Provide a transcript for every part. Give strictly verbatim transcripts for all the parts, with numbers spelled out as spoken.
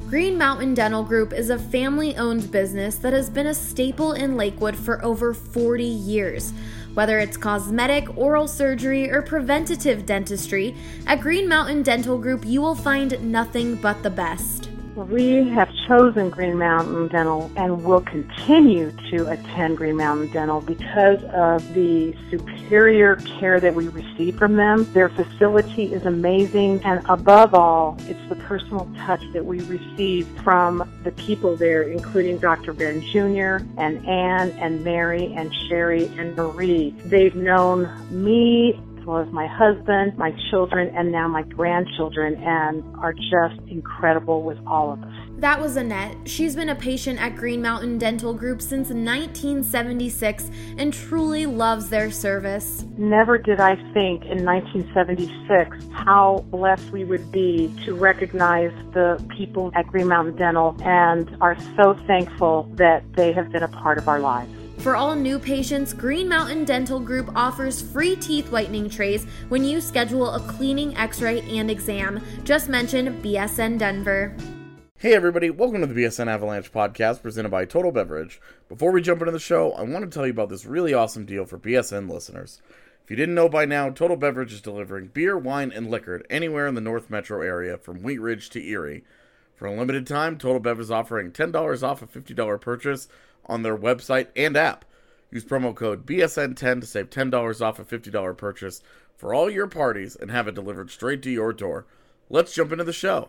Green Mountain Dental Group is a family-owned business that has been a staple in Lakewood for over forty years. Whether it's cosmetic, oral surgery, or preventative dentistry, at Green Mountain Dental Group you will find nothing but the best. We have chosen Green Mountain Dental and will continue to attend Green Mountain Dental because of the superior care that we receive from them. Their facility is amazing, and above all, it's the personal touch that we receive from the people there, including Doctor Ben Junior and Ann and Mary and Sherry and Marie. They've known me as well as my husband, my children, and now my grandchildren, and are just incredible with all of us. That was Annette. She's been a patient at Green Mountain Dental Group since nineteen seventy-six and truly loves their service. Never did I think in nineteen seventy-six how blessed we would be to recognize the people at Green Mountain Dental, and are so thankful that they have been a part of our lives. For all new patients, Green Mountain Dental Group offers free teeth whitening trays when you schedule a cleaning, x-ray, and exam. Just mention B S N Denver. Hey everybody, welcome to the B S N Avalanche podcast presented by Total Beverage. Before we jump into the show, I want to tell you about this really awesome deal for B S N listeners. If you didn't know by now, Total Beverage is delivering beer, wine, and liquor anywhere in the North Metro area from Wheat Ridge to Erie. For a limited time, Total Bev is offering ten dollars off a fifty dollars purchase on their website and app. Use promo code B S N ten to save ten dollars off a fifty dollars purchase for all your parties and have it delivered straight to your door. Let's jump into the show.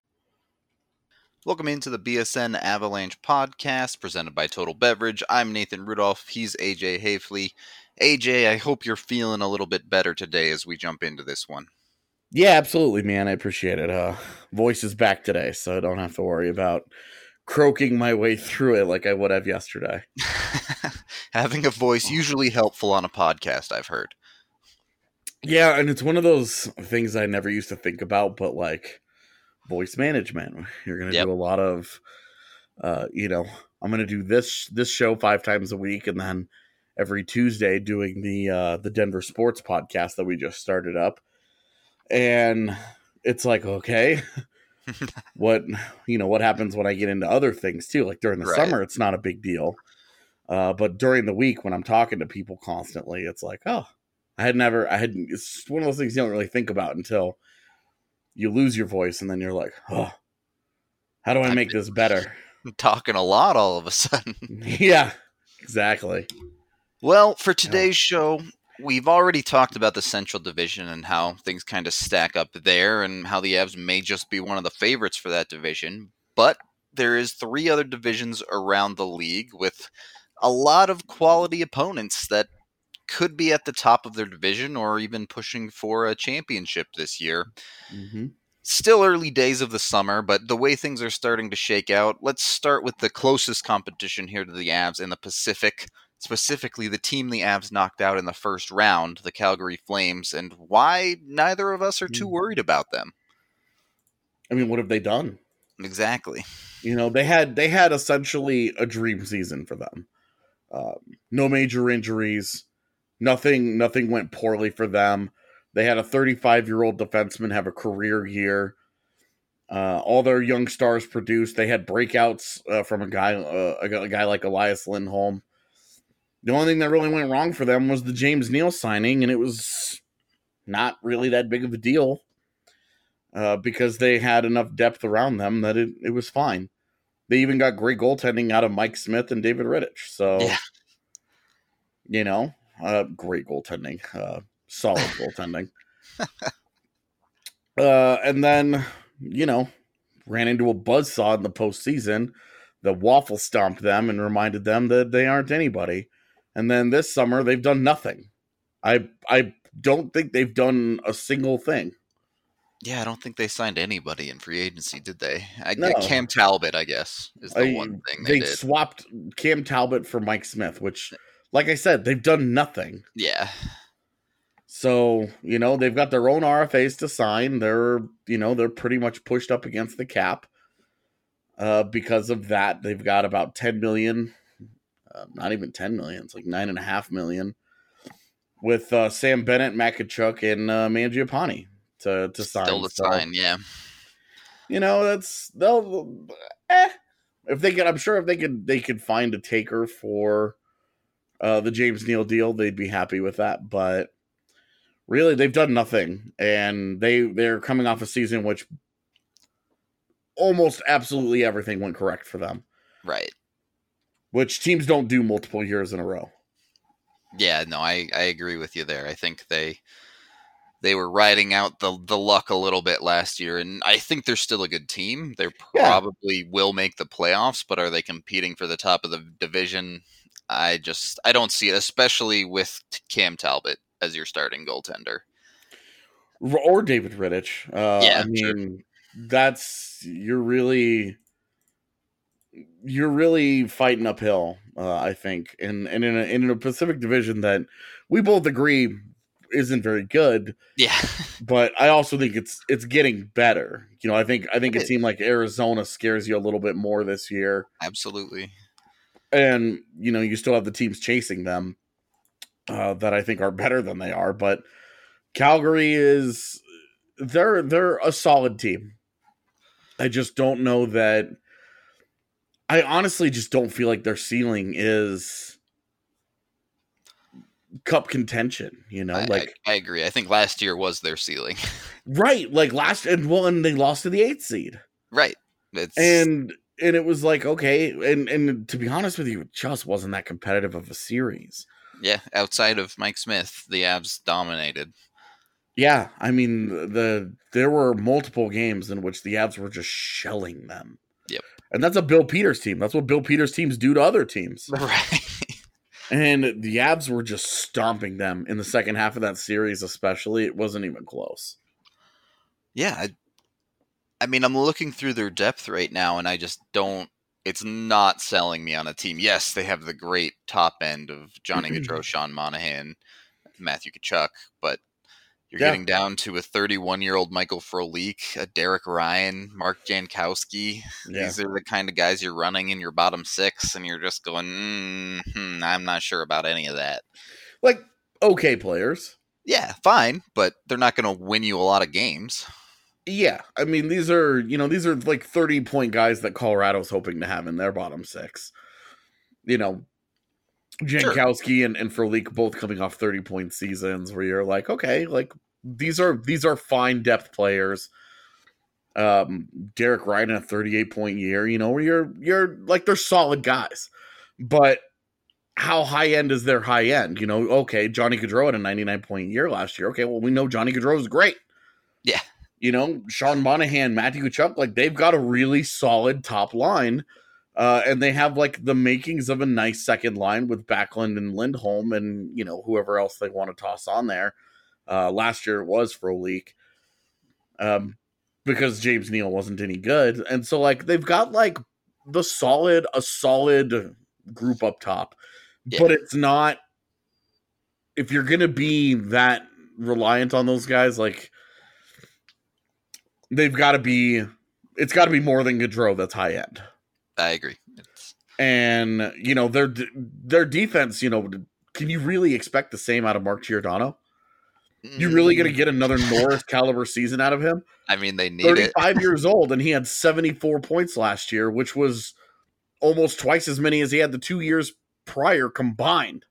Welcome into the B S N Avalanche podcast presented by Total Beverage. I'm Nathan Rudolph. He's A J Hafley. A J, I hope you're feeling a little bit better today as we jump into this one. Yeah, absolutely, man. I appreciate it. Uh, voice is back today, so I don't have to worry about croaking my way through it like I would have yesterday. Having a voice usually helpful on a podcast, I've heard. Yeah, and it's one of those things I never used to think about, but like voice management. You're going to yep. do a lot of, uh, you know, I'm going to do this this show five times a week, and then every Tuesday doing the uh, the Denver Sports podcast that we just started up. And it's like, okay, what, you know, what happens when I get into other things too? Like during the right. summer, it's not a big deal. Uh, but during the week when I'm talking to people constantly, it's like, oh, I had never, I had, it's one of those things you don't really think about until you lose your voice. And then you're like, oh, how do I make this better? I'm talking a lot all of a sudden. Yeah, exactly. Well, for today's show, we've already talked about the Central Division and how things kind of stack up there and how the Avs may just be one of the favorites for that division. But there is three other divisions around the league with a lot of quality opponents that could be at the top of their division or even pushing for a championship this year. Mm-hmm. Still early days of the summer, but the way things are starting to shake out, let's start with the closest competition here to the Avs in the Pacific. Specifically, the team the Avs knocked out in the first round, the Calgary Flames, and why neither of us are too worried about them. I mean, what have they done? Exactly. You know, they had they had essentially a dream season for them. Um, no major injuries. Nothing nothing went poorly for them. They had a thirty-five-year-old defenseman have a career year. Uh, all their young stars produced. They had breakouts uh, from a guy, uh, a, a guy like Elias Lindholm. The only thing that really went wrong for them was the James Neal signing, and it was not really that big of a deal uh, because they had enough depth around them that it, it was fine. They even got great goaltending out of Mike Smith and David Rittich. So, yeah. you know, uh, great goaltending, uh, solid goaltending. Uh, and then, you know, ran into a buzzsaw in the postseason that waffle stomped them and reminded them that they aren't anybody. And then this summer, they've done nothing. I I don't think they've done a single thing. Yeah, I don't think they signed anybody in free agency, did they? I, no. Cam Talbot, I guess, is the I, one thing they, they did. They swapped Cam Talbot for Mike Smith, which, like I said, they've done nothing. Yeah. So, you know, they've got their own R F As to sign. They're, you know, they're pretty much pushed up against the cap. Uh, because of that, they've got about ten million dollars. Uh, not even ten million. It's like nine and a half million with uh, Sam Bennett, Makachuk, and uh, Mangiapane to to sign. Still to so, sign, yeah. You know, that's they'll. eh. If they could, I'm sure if they could, they could find a taker for uh, the James Neal deal, they'd be happy with that. But really, they've done nothing, and they they're coming off a season which almost absolutely everything went correct for them. Right. Which teams don't do multiple years in a row. Yeah, no, I, I agree with you there. I think they they were riding out the the luck a little bit last year, and I think they're still a good team. They probably yeah. will make the playoffs, but are they competing for the top of the division? I just I don't see it, especially with Cam Talbot as your starting goaltender. Or David Rittich. Uh, yeah, I mean, sure. that's you're really you're really fighting uphill. Uh, I think, and and in a, in a Pacific Division that we both agree isn't very good. Yeah, but I also think it's it's getting better. You know, I think I think it a team like Arizona scares you a little bit more this year. Absolutely. And you know, you still have the teams chasing them uh, that I think are better than they are. But Calgary is they're they're a solid team. I just don't know that. I honestly just don't feel like their ceiling is cup contention, you know, I, like I, I agree. I think last year was their ceiling. Right. Like last and well, and they lost to the eighth seed. Right. It's... And and it was like, okay, and and to be honest with you, it just wasn't that competitive of a series. Yeah, outside of Mike Smith, the Avs dominated. Yeah, I mean the there were multiple games in which the Avs were just shelling them. Yep. And that's a Bill Peters team. That's what Bill Peters teams do to other teams. Right. And the Avs were just stomping them in the second half of that series, especially. It wasn't even close. Yeah. I, I mean, I'm looking through their depth right now, and I just don't – it's not selling me on a team. Yes, they have the great top end of Johnny Gaudreau, Sean Monahan, Matthew Tkachuk, but – You're yeah. getting down to a thirty-one-year-old Michael Frolik, a Derek Ryan, Mark Jankowski. Yeah. These are the kind of guys you're running in your bottom six, and you're just going, mm-hmm, I'm not sure about any of that. Like, okay players. Yeah, fine, but they're not going to win you a lot of games. Yeah, I mean, these are, you know, these are like thirty-point guys that Colorado's hoping to have in their bottom six. You know, Jankowski sure. and, and Frolik both coming off thirty-point seasons where you're like, okay, like these are these are fine depth players. Um, Derek Ryan in a thirty-eight point year, you know, where you're you're like they're solid guys. But how high end is their high end? You know, okay, Johnny Gaudreau had a ninety-nine point year last year. Okay, well, we know Johnny Gaudreau is great. Yeah. You know, Sean Monahan, Matthew Tkachuk, like they've got a really solid top line. Uh, and they have like the makings of a nice second line with Backlund and Lindholm and, you know, whoever else they want to toss on there. Uh, last year it was Frolik um, because James Neal wasn't any good. And so like they've got like the solid, a solid group up top, yeah. But it's not, if you're going to be that reliant on those guys, like they've got to be, it's got to be more than Gaudreau that's high end. I agree. It's... And, you know, their their defense, you know, can you really expect the same out of Mark Giordano? You really going to get another Norris caliber season out of him? I mean, they need thirty-five it. thirty-five years old, and he had seventy-four points last year, which was almost twice as many as he had the two years prior combined.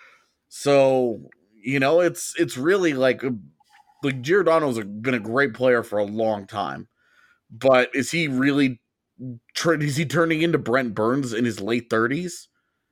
So, you know, it's it's really like, like Giordano's been a great player for a long time. But is he really... Is he turning into Brent Burns in his late thirties?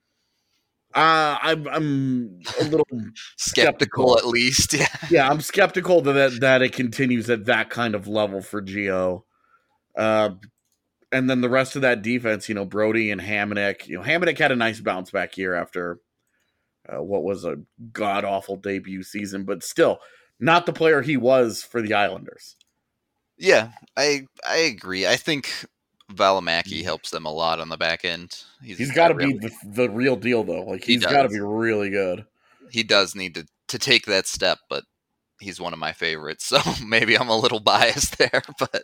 Uh, I'm I'm a little skeptical, skeptical, at least. Yeah, yeah, I'm skeptical that that it continues at that kind of level for Gio. Uh, and then the rest of that defense, you know, Brody and Hamonic. You know, Hamonic had a nice bounce back year after uh, what was a god awful debut season, but still not the player he was for the Islanders. Yeah, I I agree. I think Valimaki helps them a lot on the back end. He's, he's got to be the, the real deal, though. Like he's he got to be really good. He does need to, to take that step, but he's one of my favorites, so maybe I'm a little biased there. But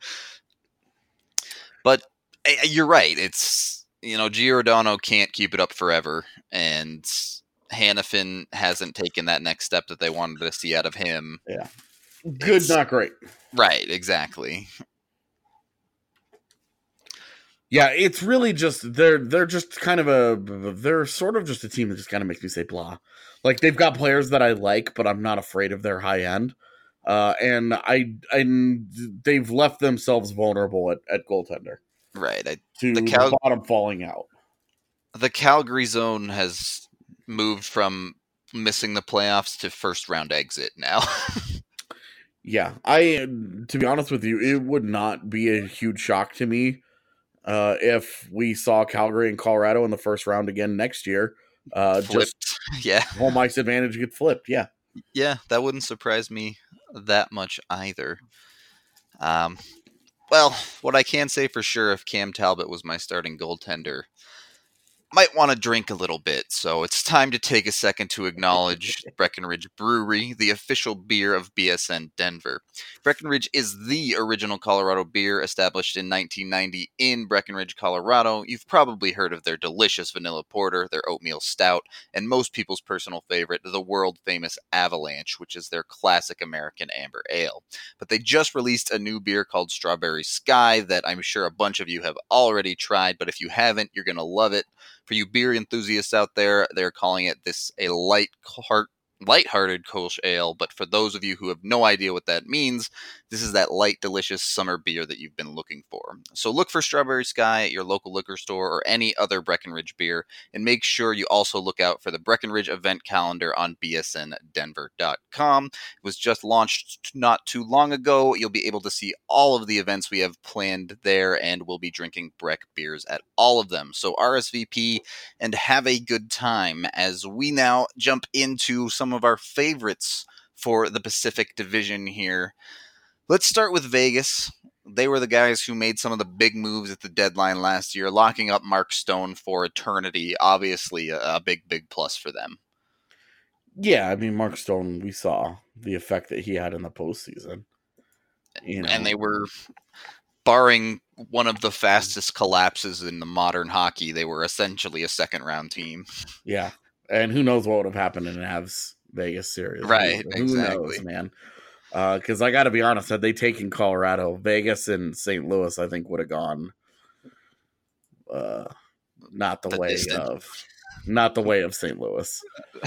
but you're right. It's, you know, Giordano can't keep it up forever, and Hanifin hasn't taken that next step that they wanted to see out of him. Yeah, good, it's, not great. Right, exactly. Yeah, it's really just they're they're just kind of a they're sort of just a team that just kind of makes me say blah. Like they've got players that I like, but I'm not afraid of their high end. Uh, and I and they've left themselves vulnerable at, at goaltender. Right. I, to the, Cal- the bottom falling out. The Calgary zone has moved from missing the playoffs to first round exit now. Yeah, I to be honest with you, it would not be a huge shock to me uh, if we saw Calgary and Colorado in the first round again next year. Uh, Flipped. Just yeah, home ice advantage get flipped. Yeah, yeah, that wouldn't surprise me that much either. Um, well, what I can say for sure, if Cam Talbot was my starting goaltender, might want to drink a little bit, so it's time to take a second to acknowledge Breckenridge Brewery, the official beer of B S N Denver. Breckenridge is the original Colorado beer, established in nineteen ninety in Breckenridge, Colorado. You've probably heard of their delicious vanilla porter, their oatmeal stout, and most people's personal favorite, the world-famous Avalanche, which is their classic American amber ale. But they just released a new beer called Strawberry Sky that I'm sure a bunch of you have already tried, but if you haven't, you're going to love it. For you beer enthusiasts out there, they're calling it this a light heart, light-hearted Kolsch ale, but for those of you who have no idea what that means, this is that light, delicious summer beer that you've been looking for. So look for Strawberry Sky at your local liquor store or any other Breckenridge beer, and make sure you also look out for the Breckenridge event calendar on b s n denver dot com. It was just launched not too long ago. You'll be able to see all of the events we have planned there, and we'll be drinking Breck beers at all of them. So R S V P and have a good time as we now jump into some of our favorites for the Pacific Division here. Let's start with Vegas. They were the guys who made some of the big moves at the deadline last year, locking up Mark Stone for eternity. Obviously, a, a big, big plus for them. Yeah, I mean, Mark Stone, we saw the effect that he had in the postseason. You know. And they were, barring one of the fastest collapses in the modern hockey, they were essentially a second-round team. Yeah, and who knows what would have happened in an Avs Vegas series. Right, who exactly. knows, man. Because uh, I got to be honest, had they taken Colorado, Vegas and Saint Louis, I think would have gone uh, not the, the way distant. of not the way of Saint Louis.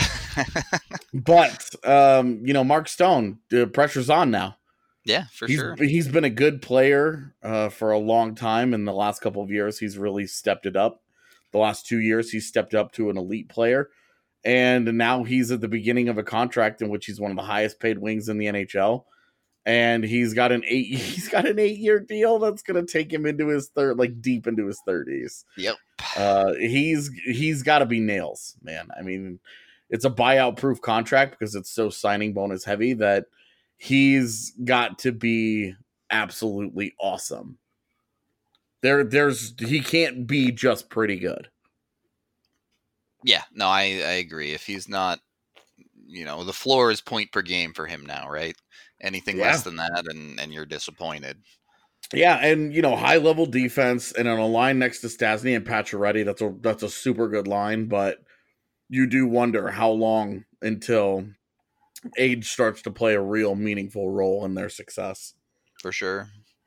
But um, you know, Mark Stone, the pressure's on now. Yeah, for he's, sure. He's been a good player uh, for a long time. In the last couple of years, he's really stepped it up. The last two years, he's stepped up to an elite player. And now he's at the beginning of a contract in which he's one of the highest paid wings in the N H L. And he's got an eight he's got an eight year deal that's gonna take him into his third like deep into his thirties. Yep. Uh he's he's gotta be nails, man. I mean, it's a buyout proof contract because it's so signing bonus heavy that he's got to be absolutely awesome. There there's he can't be just pretty good. Yeah, no, I, I agree. If he's not, you know, the floor is point per game for him now, right? Anything yeah. less than that, and, and you're disappointed. Yeah, and, you know, high-level defense, and on a line next to Stastny and Pacioretty, that's a, that's a super good line, but you do wonder how long until age starts to play a real meaningful role in their success. For sure.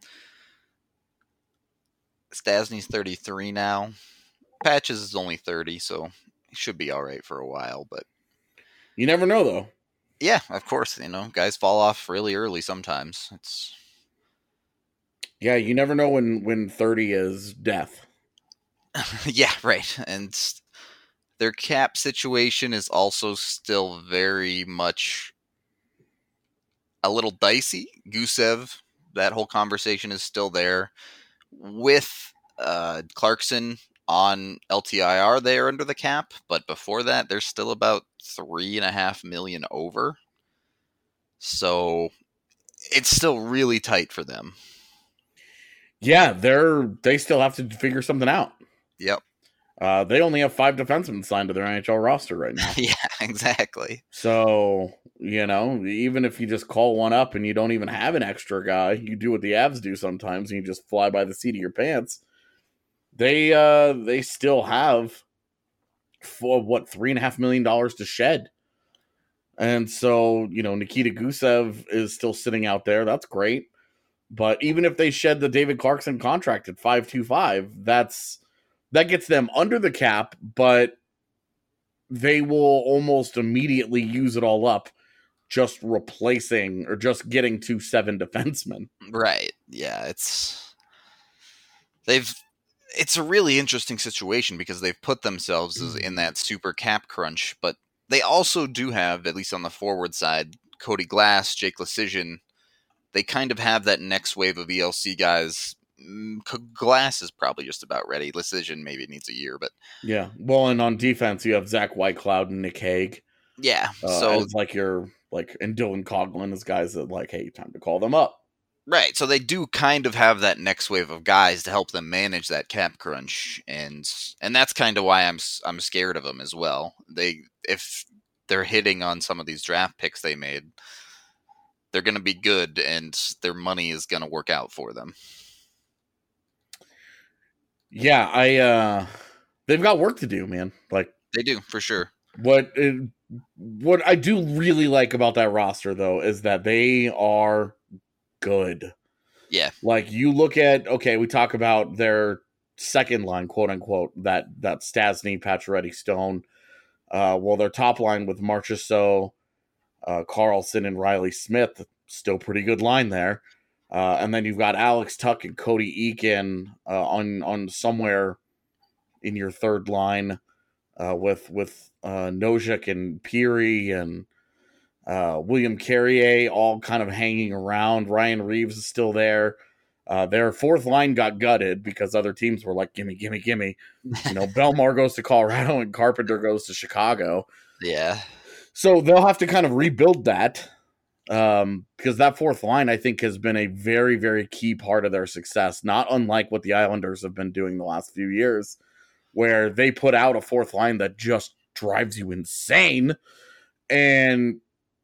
Stastny's thirty-three now. Patches is only thirty, so should be all right for a while, but you never know, though. Yeah, of course. You know, guys fall off really early sometimes. It's yeah, you never know when when thirty is death. Yeah, right. And their cap situation is also still very much a little dicey. Gusev, that whole conversation is still there. With uh, Clarkson on L T I R there under the cap, but before that, they're still about three and a half million over. So it's still really tight for them. Yeah, they're they still have to figure something out. Yep. Uh, they only have five defensemen signed to their N H L roster right now. Yeah, exactly. So, you know, even if you just call one up and you don't even have an extra guy, you do what the Avs do sometimes and you just fly by the seat of your pants. They uh they still have for what three and a half million dollars to shed. And so, you know, Nikita Gusev is still sitting out there. That's great. But even if they shed the David Clarkson contract at five twenty-five, that's that gets them under the cap, but they will almost immediately use it all up just replacing or just getting to seven defensemen. Right. Yeah, it's they've it's a really interesting situation because they've put themselves in that super cap crunch, but they also do have, at least on the forward side, Cody Glass, Jake Leschyshyn. They kind of have that next wave of E L C guys. Glass is probably just about ready. Leschyshyn maybe needs a year, but yeah. Well, and on defense, you have Zach Whitecloud and Nick Hague. Yeah, uh, so it's like you're like, and Dylan Coughlin is guys that like, hey, time to call them up. Right, so they do kind of have that next wave of guys to help them manage that cap crunch, and and that's kind of why I'm I'm scared of them as well. They if they're hitting on some of these draft picks they made, they're going to be good, and their money is going to work out for them. Yeah, I uh, they've got work to do, man. Like they do for sure. What it, what I do really like about that roster, though, is that they are good. Yeah, like you look at okay, we talk about their second line, quote unquote, that that Stastny, Pacioretty, Stone. Uh, well, their top line with Marchessault, uh, Carlson, and Riley Smith, still pretty good line there. Uh, and then you've got Alex Tuck and Cody Eakin uh, on on somewhere in your third line uh, with with uh, Nojek and Peary and uh, William Carrier all kind of hanging around. Ryan Reeves is still there. Uh, their fourth line got gutted because other teams were like, gimme, gimme, gimme. You know, Belmar goes to Colorado and Carpenter goes to Chicago. Yeah. So they'll have to kind of rebuild that. Um, because that fourth line, I think, has been a very, very key part of their success, not unlike what the Islanders have been doing the last few years, where they put out a fourth line that just drives you insane. And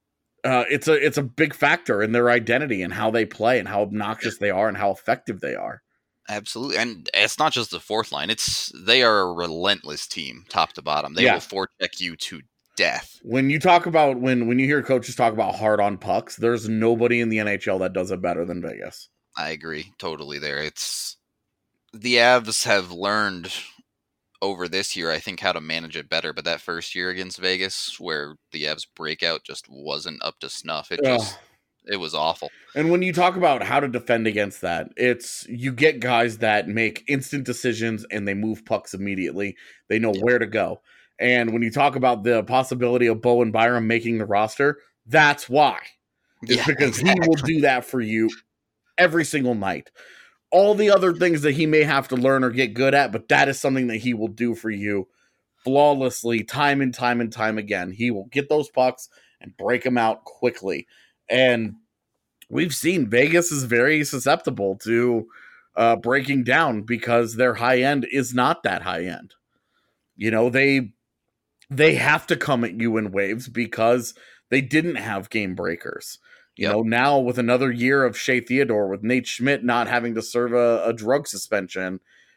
uh, it's a it's a big factor in their identity and how they play and how obnoxious they are and how effective they are. Absolutely. And it's not just the fourth line. It's they are a relentless team, top to bottom. They yeah. will forecheck you to death. When you talk about when when you hear coaches talk about hard on pucks, there's nobody in the N H L that does it better than Vegas. I agree totally there. It's the Avs have learned over this year, I think, how to manage it better, but that first year against Vegas where the Avs breakout just wasn't up to snuff. It just Ugh. It was awful. And when you talk about how to defend against that, it's you get guys that make instant decisions and they move pucks immediately. They know yeah. where to go. And when you talk about the possibility of Bowen Byram making the roster, that's why. It's yeah, because exactly. he will do that for you every single night. All the other things that he may have to learn or get good at, but that is something that he will do for you flawlessly time and time and time again. He will get those pucks and break them out quickly. And we've seen Vegas is very susceptible to uh, breaking down because their high end is not that high end. You know, they... They have to come at you in waves because they didn't have game breakers. You yep. know, now with another year of Shea Theodore, with Nate Schmidt not having to serve a, a drug suspension,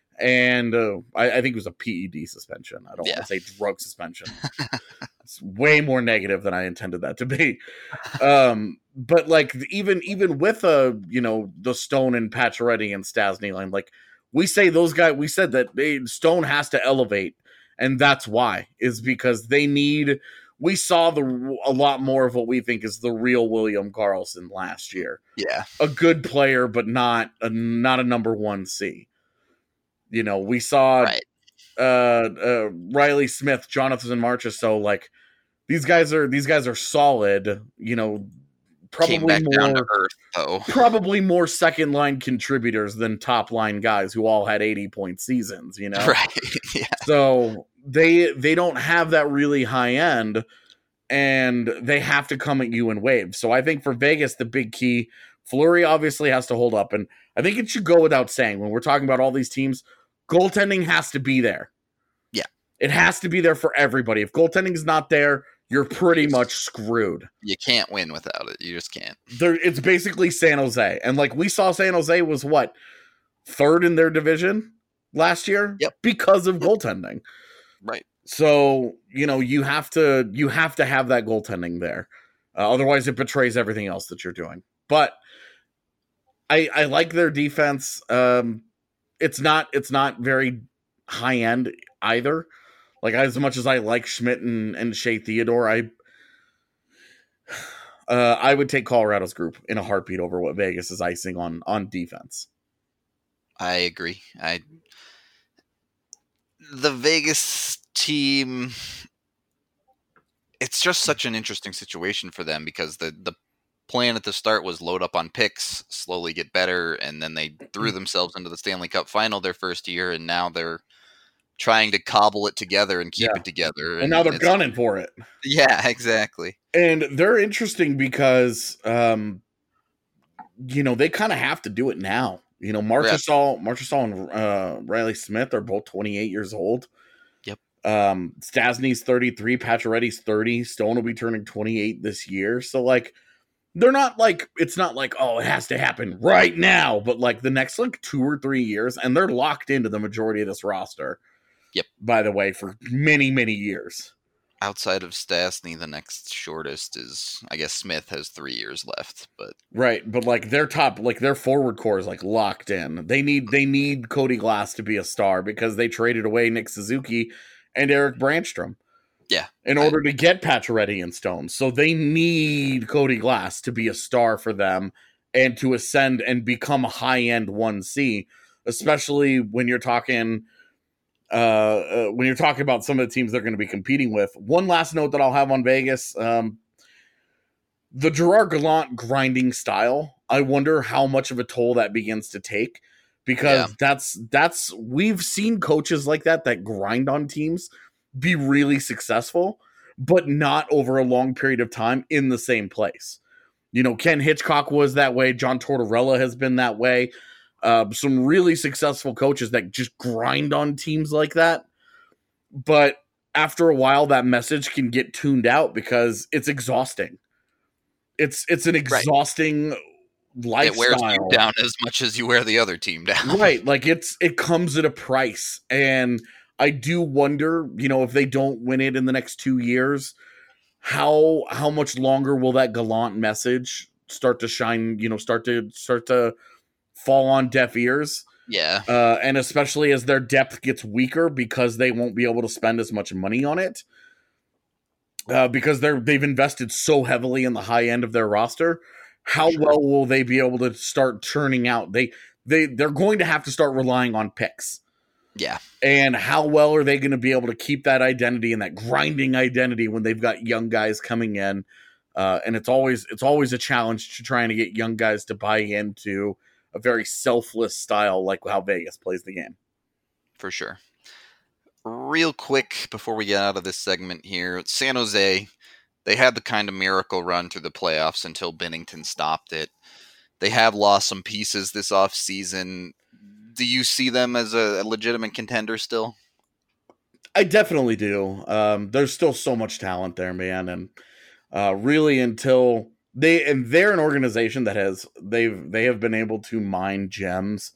and uh, I, I think it was a P E D suspension. I don't yeah. want to say drug suspension. It's way more negative than I intended that to be. Um, but like even even with a you know the Stone and Pacioretty and Stastny line, like we say those guys, we said that they, Stone has to elevate. And that's why, is because they need, we saw the a lot more of what we think is the real William Karlsson last year. Yeah. A good player, but not a, not a number one C. You know, we saw right. uh, uh, Riley Smith, Jonathan Marchessault, like these guys are, these guys are solid, you know, probably Came back more, down to earth, though. probably more second line contributors than top line guys who all had eighty point seasons, you know? Right. Yeah. So they, they don't have that really high end and they have to come at you in waves. So I think for Vegas, the big key, Fleury obviously has to hold up. And I think it should go without saying when we're talking about all these teams, goaltending has to be there. Yeah. It has to be there for everybody. If goaltending is not there, you're pretty much screwed. You can't win without it. You just can't. There, it's basically San Jose. And like we saw San Jose was what? Third in their division last year? Yep. Because of goaltending. Right. So, you know, you have to you have to have that goaltending there. Uh, otherwise it betrays everything else that you're doing. But I, I like their defense. Um, it's not it's not very high end either. Like as much as I like Schmidt and, and Shea Theodore, I uh, I would take Colorado's group in a heartbeat over what Vegas is icing on on defense. I agree. I the Vegas team, it's just such an interesting situation for them because the the plan at the start was load up on picks, slowly get better, and then they threw themselves into the Stanley Cup final their first year, and now they're trying to cobble it together and keep Yeah. it together. And, and now they're gunning for it. Yeah, exactly. And they're interesting because, um, you know, they kind of have to do it now. You know, Marchessault, yeah. Marchessault and uh, Riley Smith are both twenty-eight years old. Yep. Um, Stasny's thirty-three, Pacioretty's thirty. Stone will be turning twenty-eight this year. So, like, they're not like, it's not like, oh, it has to happen right now. But, like, the next, like, two or three years, and they're locked into the majority of this roster. Yep. By the way, for many, many years. Outside of Stastny, the next shortest is, I guess, Smith has three years left, but right. But like their top, like their forward core is like locked in. They need they need Cody Glass to be a star because they traded away Nick Suzuki and Eric Brandstrom. Yeah, in order I, to get Pacioretty and Stone, so they need Cody Glass to be a star for them and to ascend and become a high end one C, especially when you're talking. Uh, uh, when you're talking about some of the teams they're going to be competing with. One last note that I'll have on Vegas, um, the Gerard Gallant grinding style, I wonder how much of a toll that begins to take, because yeah. that's, that's, we've seen coaches like that, that grind on teams be really successful, but not over a long period of time in the same place. You know, Ken Hitchcock was that way. John Tortorella has been that way. Uh, some really successful coaches that just grind on teams like that. But after a while, that message can get tuned out because it's exhausting. It's it's an exhausting right. lifestyle. It wears you down as much as you wear the other team down. Right. Like it's it comes at a price. And I do wonder, you know, if they don't win it in the next two years, how how much longer will that Gallant message start to shine, you know, start to start to fall on deaf ears. Yeah. Uh, and especially as their depth gets weaker because they won't be able to spend as much money on it. Uh, because they're they've invested so heavily in the high end of their roster. How sure. well will they be able to start churning out? They they they're going to have to start relying on picks. Yeah. And how well are they going to be able to keep that identity and that grinding identity when they've got young guys coming in? Uh, and it's always it's always a challenge to trying to get young guys to buy into a very selfless style like how Vegas plays the game. For sure. Real quick, before we get out of this segment here, San Jose, they had the kind of miracle run through the playoffs until Binnington stopped it. They have lost some pieces this offseason. Do you see them as a, a legitimate contender still? I definitely do. Um, there's still so much talent there, man. And uh, really until... They and they're an organization that has they've they have been able to mine gems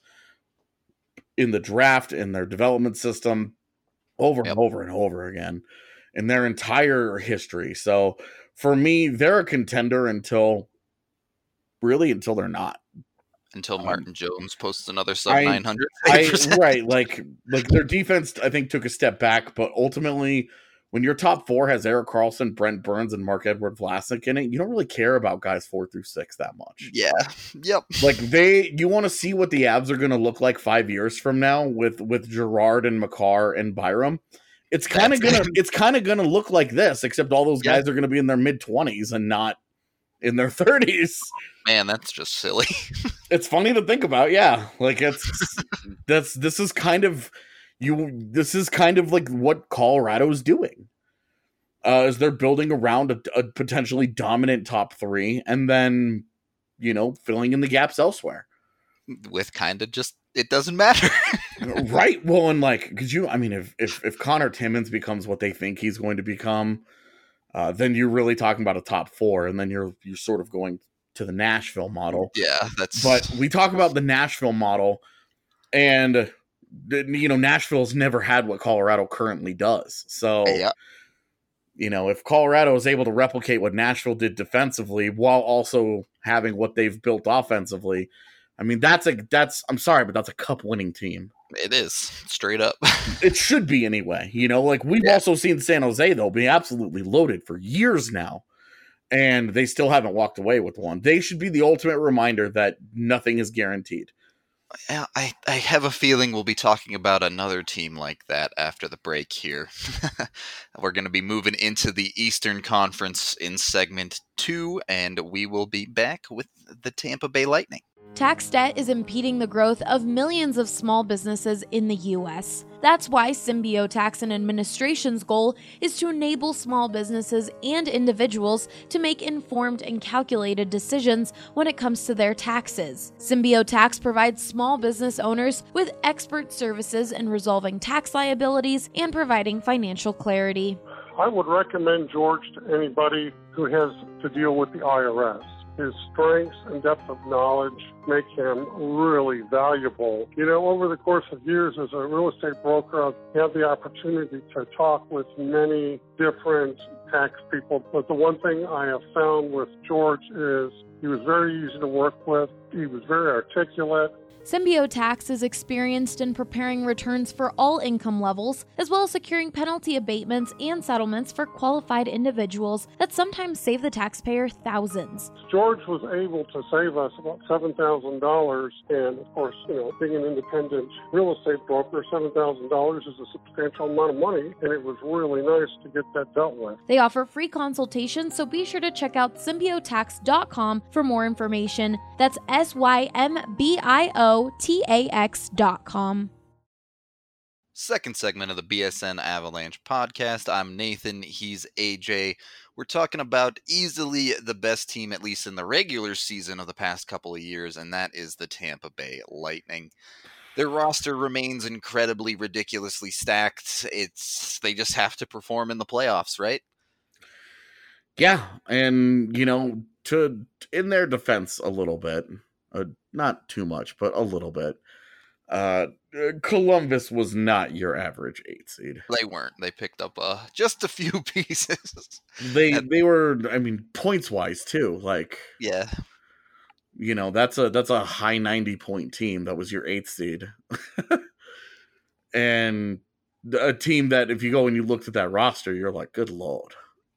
in the draft, in their development system, over yep. and over and over again in their entire history. So for me, they're a contender until really until they're not. Until Martin um, Jones posts another sub nine hundred. Right, like like their defense, I think, took a step back, but ultimately. When your top four has Erik Karlsson, Brent Burns, and Mark-Edward Vlasic in it, you don't really care about guys four through six that much. Yeah. Yep. Like they, you want to see what the Avs are going to look like five years from now with with Gerard and Makar and Byram. It's kind of gonna, it's kind of gonna look like this, except all those guys yep. are going to be in their mid twenties and not in their thirties. Man, that's just silly. It's funny to think about. Yeah, like it's that's this is kind of. You, this is kind of like what Colorado is doing, uh, is they're building around a, a potentially dominant top three, and then, you know, filling in the gaps elsewhere. With kind of just it doesn't matter, right? Well, and like, could you? I mean, if if if Connor Timmins becomes what they think he's going to become, uh, then you're really talking about a top four, and then you're you're sort of going to the Nashville model. Yeah, that's. But we talk about the Nashville model, and. You know, Nashville's never had what Colorado currently does. So, yeah. you know, if Colorado is able to replicate what Nashville did defensively while also having what they've built offensively, I mean, that's a that's I'm sorry, but that's a cup winning team. It is, straight up. It should be anyway. You know, like we've yeah. also seen San Jose though be absolutely loaded for years now, and they still haven't walked away with one. They should be the ultimate reminder that nothing is guaranteed. I, I have a feeling we'll be talking about another team like that after the break here. We're going to be moving into the Eastern Conference in segment two, and we will be back with the Tampa Bay Lightning. Tax debt is impeding the growth of millions of small businesses in the U S. That's why Symbio Tax and Administration's goal is to enable small businesses and individuals to make informed and calculated decisions when it comes to their taxes. Symbio Tax provides small business owners with expert services in resolving tax liabilities and providing financial clarity. I would recommend George to anybody who has to deal with the I R S. His strengths and depth of knowledge make him really valuable. You know, over the course of years as a real estate broker, I've had the opportunity to talk with many different tax people. But the one thing I have found with George is he was very easy to work with. He was very articulate. Symbio Tax is experienced in preparing returns for all income levels, as well as securing penalty abatements and settlements for qualified individuals that sometimes save the taxpayer thousands. George was able to save us about seven thousand dollars, and of course, you know, being an independent real estate broker, seven thousand dollars is a substantial amount of money, and it was really nice to get that dealt with. They offer free consultations, so be sure to check out symbio tax dot com for more information. That's S Y M B I O T A X dot com. Second segment of the B S N Avalanche podcast. I'm Nathan. He's A J. We're talking about easily the best team, at least in the regular season of the past couple of years, and that is the Tampa Bay Lightning. Their roster remains incredibly, ridiculously stacked. It's they just have to perform in the playoffs, right? Yeah, and, you know, to in their defense a little bit, uh, not too much, but a little bit, uh, Columbus was not your average eight seed. They weren't. They picked up uh, just a few pieces. They and, they were, I mean, points wise too. Like, yeah, you know, that's a that's a high ninety point team. That was your eighth seed, and a team that if you go and you looked at that roster, you're like, good lord.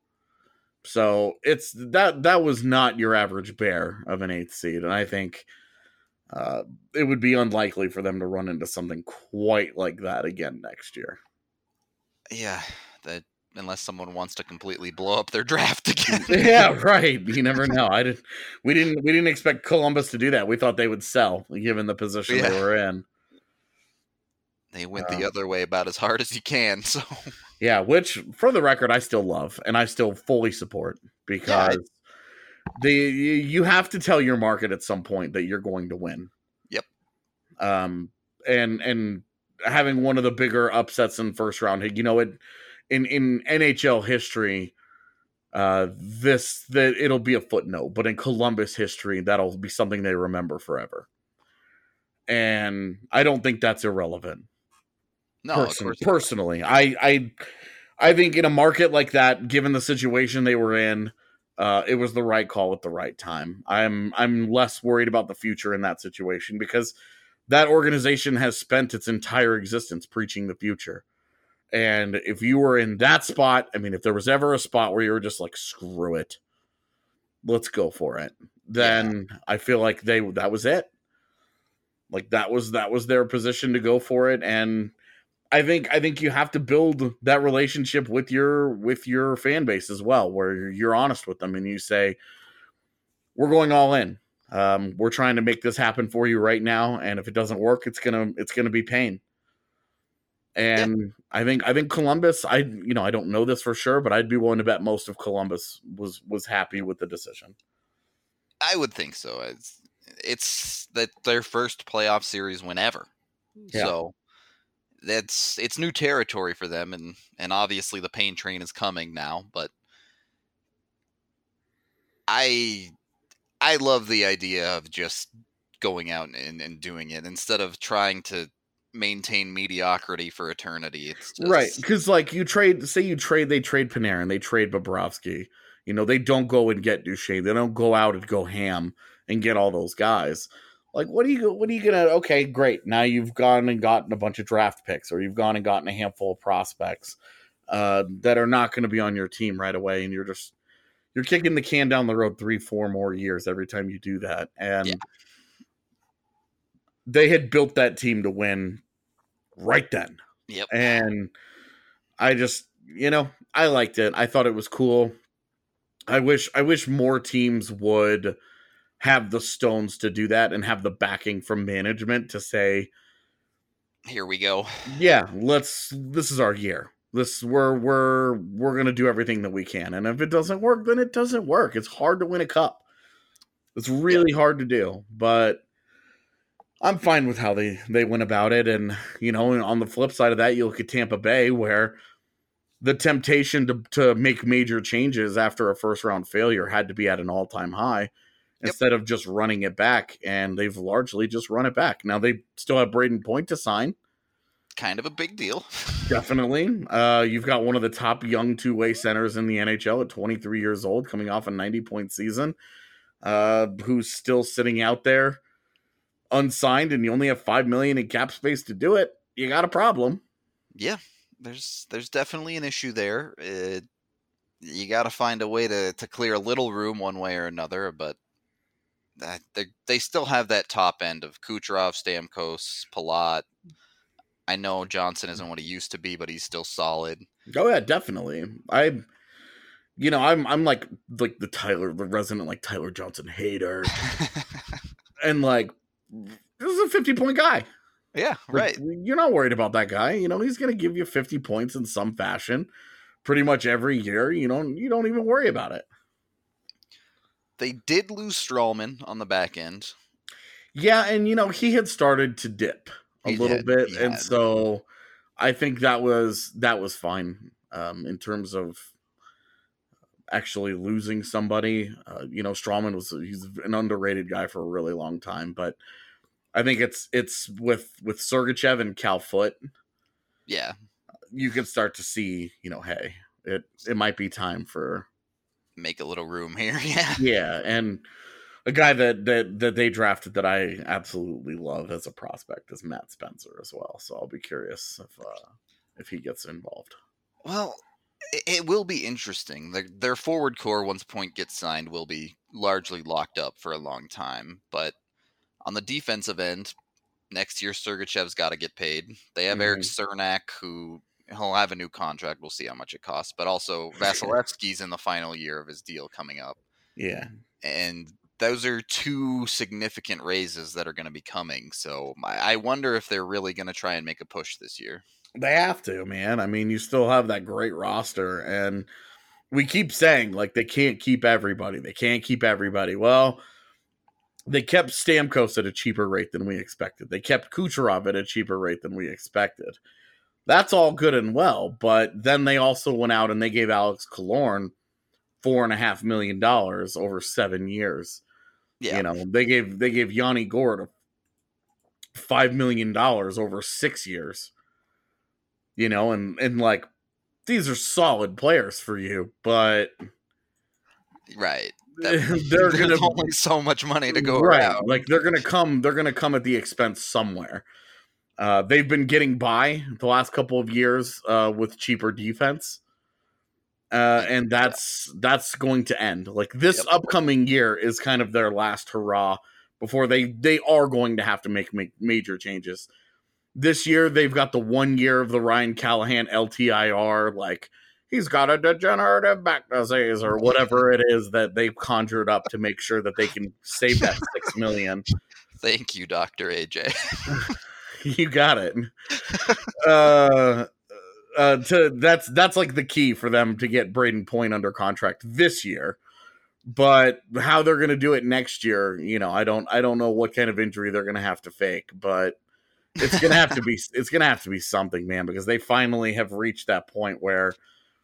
So it's that that was not your average bear of an eighth seed, and I think uh, it would be unlikely for them to run into something quite like that again next year. Yeah, that unless someone wants to completely blow up their draft again. Yeah, right. You never know. I didn't. We didn't. We didn't expect Columbus to do that. We thought they would sell, given the position yeah. they were in. They went um, the other way about as hard as you can. So. Yeah, which, for the record, I still love and I still fully support because yeah. the you have to tell your market at some point that you're going to win. Yep. Um, and and having one of the bigger upsets in first round, you know, it in in N H L history, uh, this that it'll be a footnote, but in Columbus history, that'll be something they remember forever. And I don't think that's irrelevant. No, Person, personally, I, I, I think in a market like that, given the situation they were in, uh, it was the right call at the right time. I'm, I'm less worried about the future in that situation because that organization has spent its entire existence preaching the future. And if you were in that spot, I mean, if there was ever a spot where you were just like, screw it, let's go for it, then yeah. I feel like they that was it. Like that was that was their position to go for it, and. I think I think you have to build that relationship with your with your fan base as well, where you're honest with them and you say, "We're going all in. Um, we're trying to make this happen for you right now, and if it doesn't work, it's gonna it's gonna be pain." And yeah. I think I think Columbus. I you know I don't know this for sure, but I'd be willing to bet most of Columbus was was happy with the decision. I would think so. It's it's that their first playoff series win ever, yeah. so. That's it's new territory for them, and, and obviously the pain train is coming now. But I I love the idea of just going out and, and doing it instead of trying to maintain mediocrity for eternity. It's just... right, because like you trade, say you trade, they trade Panarin, they trade Bobrovsky. You know, they don't go and get Duchesne. They don't go out and go ham and get all those guys. Like, what are you, what are you gonna? Okay, great. Now you've gone and gotten a bunch of draft picks, or you've gone and gotten a handful of prospects uh, that are not going to be on your team right away, and you're just you're kicking the can down the road three, four more years every time you do that. And yeah. They had built that team to win right then. Yep. And I just, you know, I liked it. I thought it was cool. I wish, I wish more teams would have the stones to do that and have the backing from management to say, here we go. Yeah, let's, this is our year. This, we're, we're, we're going to do everything that we can. And if it doesn't work, then it doesn't work. It's hard to win a cup. It's really yep. hard to do, but I'm fine with how they, they went about it. And, you know, on the flip side of that, you look at Tampa Bay, where the temptation to, to make major changes after a first round failure had to be at an all time high yep. instead of just running it back. And they've largely just run it back. Now they still have Braden Point to sign. Kind of a big deal. Definitely. Uh, you've got one of the top young two way centers in the N H L at twenty-three years old, coming off a ninety point season, uh, who's still sitting out there unsigned, and you only have five million in cap space to do it. You got a problem. Yeah, there's there's definitely an issue there. It, you got to find a way to to clear a little room one way or another, but that, they they still have that top end of Kucherov, Stamkos, Palat. I know Johnson isn't what he used to be, but he's still solid. Oh yeah, definitely. I, you know, I'm I'm like like the Tyler, the resident like Tyler Johnson hater, and like. This is a fifty point guy. Yeah, right. Like, you're not worried about that guy. You know, he's going to give you fifty points in some fashion pretty much every year. You don't, you don't even worry about it. They did lose Strawman on the back end. Yeah, and, you know, he had started to dip a he little did. bit. He and had. So I think that was that was fine um, in terms of actually losing somebody. Uh, you know, Strawman was he's an underrated guy for a really long time, but I think it's it's with with Sergachev and Cal Foote. Yeah, you can start to see, you know, hey, it it might be time for make a little room here. Yeah, yeah, and a guy that that that they drafted that I absolutely love as a prospect is Matt Spencer as well. So I'll be curious if uh, if he gets involved. Well, it will be interesting. Their, their forward core, once Point gets signed, will be largely locked up for a long time. But on the defensive end, next year Sergachev's got to get paid. They have mm-hmm. Eric Cernak, who he'll have a new contract. We'll see how much it costs. But also Vasilevsky's in the final year of his deal coming up. Yeah. And those are two significant raises that are going to be coming. So I wonder if they're really going to try and make a push this year. They have to, man. I mean, you still have that great roster, and we keep saying, like, they can't keep everybody. They can't keep everybody. Well, they kept Stamkos at a cheaper rate than we expected. They kept Kucherov at a cheaper rate than we expected. That's all good and well, but then they also went out and they gave Alex Killorn four and a half million dollars over seven years. Yeah. You know, they gave they gave Yanni Gourde five million dollars over six years. You know, and, and like, these are solid players for you, but right. That, they're gonna only so much money to go right. around. Like they're gonna come, they're gonna come at the expense somewhere. Uh, they've been getting by the last couple of years uh, with cheaper defense, uh, and that's yeah. that's going to end. Like this yep. upcoming year is kind of their last hurrah before they they are going to have to make, make major changes. This year they've got the one year of the Ryan Callahan L T I R, like. He's got a degenerative back disease or whatever it is that they've conjured up to make sure that they can save that six million. Thank you, Doctor A J. You got it. Uh, uh, to that's that's like the key for them to get Braden Point under contract this year. But how they're going to do it next year, you know, I don't I don't know what kind of injury they're going to have to fake, but it's going to have to be it's going to have to be something, man, because they finally have reached that point where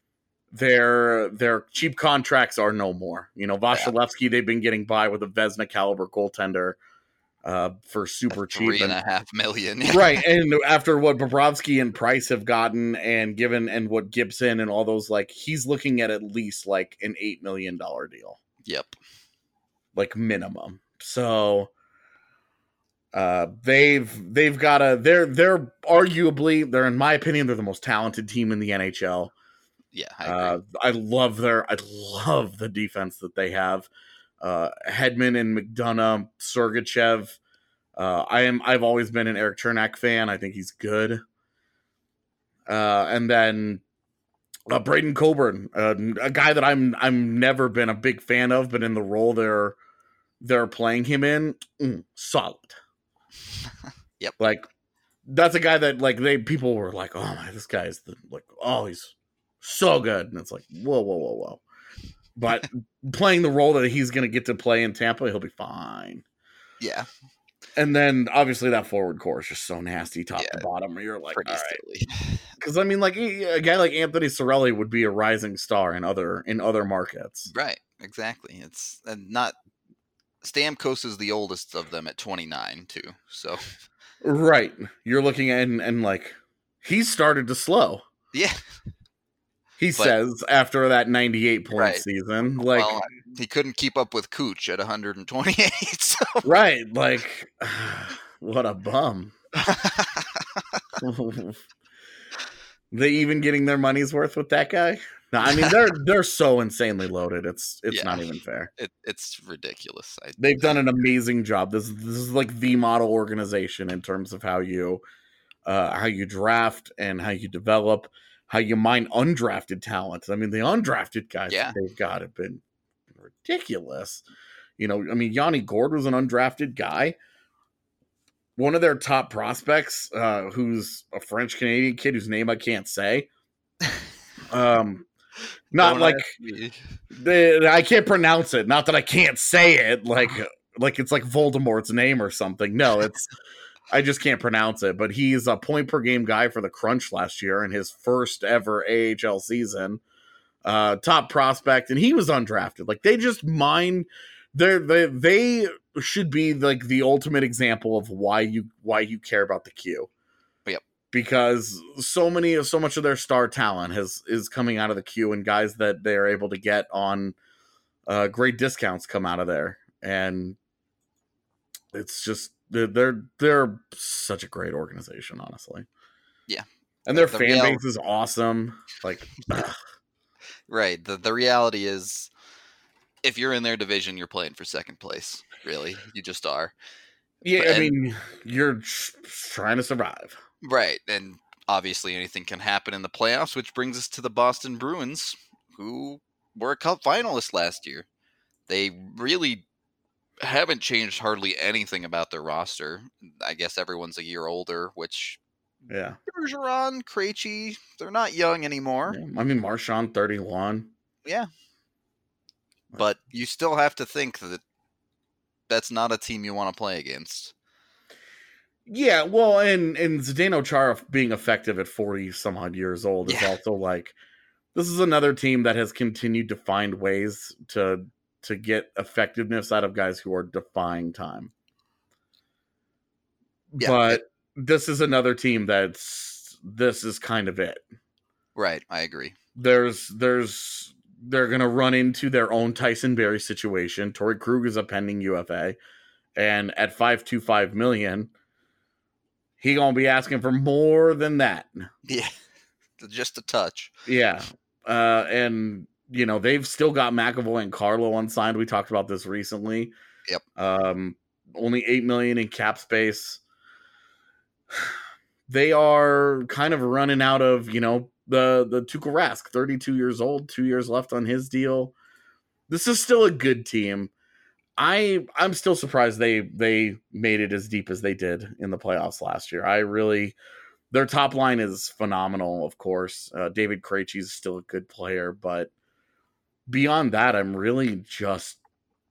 Their their cheap contracts are no more. You know, Vasilevsky, yeah. they've been getting by with a Vezina caliber goaltender uh, for super a three cheap. and, and a half million. Right. And after what Bobrovsky and Price have gotten and given and what Gibson and all those, like, he's looking at at least like an eight million dollars deal. Yep. Like minimum. So Uh, they've they've got a they're they're arguably they're in my opinion they're the most talented team in the N H L. Yeah, I agree. Uh, I love their I love the defense that they have. Uh, Hedman and McDonough, Sergachev. Uh, I am I've always been an Eric Chernak fan. I think he's good. Uh, and then uh, Braden Coburn, uh, a guy that I'm I'm never been a big fan of, but in the role they're they're playing him in, mm, solid. Yep. Like that's a guy that like they people were like, oh my, this guy is the like oh he's so good, and it's like whoa whoa whoa whoa. But playing the role that he's going to get to play in Tampa, he'll be fine. Yeah. And then obviously that forward core is just so nasty, top Yeah, to bottom. Where you're like, pretty all right. silly. Because I mean, like a guy like Anthony Cirelli would be a rising star in other in other markets. Right. Exactly. It's and not Stamkos is the oldest of them at twenty-nine too. So. Right. You're looking at and, and like he's started to slow. Yeah. He but, says after that ninety-eight point right. season, like well, he couldn't keep up with Cooch at one hundred twenty-eight. So. Right, like what a bum. They even getting their money's worth with that guy? No, I mean they're they're so insanely loaded. It's it's yeah. not even fair. It, it's ridiculous. I, They've done an amazing job. This this is like the model organization in terms of how you uh, how you draft and how you develop. How you mine undrafted talent. I mean, the undrafted guys yeah. that they've got have been ridiculous. You know, I mean, Yanni Gourde was an undrafted guy. One of their top prospects, uh, who's a French-Canadian kid whose name I can't say. Um, not Don't like the, I can't pronounce it. Not that I can't say it. Like, like it's like Voldemort's name or something. No, it's... I just can't pronounce it, but he's a point per game guy for the Crunch last year in his first ever A H L season. Uh, top prospect, and he was undrafted. Like they just mine, they they they should be like the ultimate example of why you why you care about the Q. Yep. Because so many so much of their star talent has is coming out of the Q, and guys that they are able to get on uh, great discounts come out of there, and it's just. They're, they're they're such a great organization, honestly. Yeah, and their the fan real... base is awesome. Like, right. The the reality is, if you're in their division, you're playing for second place. Really, you just are. Yeah, but, I mean, you're trying to survive. Right, and obviously anything can happen in the playoffs, which brings us to the Boston Bruins, who were a Cup finalist last year. They really. Haven't changed hardly anything about their roster. I guess everyone's a year older, which yeah, Bergeron, Krejci, they're not young anymore. Yeah. I mean, Marchand, thirty-one. Yeah, but you still have to think that that's not a team you want to play against. Yeah, well, and and Zdeno Chara being effective at forty some odd years old is yeah. also like this is another team that has continued to find ways to. to get effectiveness out of guys who are defying time. Yeah, but it, this is another team that's, this is kind of it. Right. I agree. There's, there's, they're going to run into their own Tyson Barrie situation. Torrey Krug is a pending U F A, and at five hundred twenty-five million, he going to be asking for more than that. Yeah. Just a touch. Yeah. Uh, and, you know, they've still got McAvoy and Carlo unsigned. We talked about this recently. Yep. Um, only eight million dollars in cap space. They are kind of running out of, you know, the, the Tuukka Rask, thirty-two years old, two years left on his deal. This is still a good team. I, I'm still surprised they, they made it as deep as they did in the playoffs last year. I really, their top line is phenomenal, of course. Uh, David Krejci is still a good player, but beyond that, I'm really just,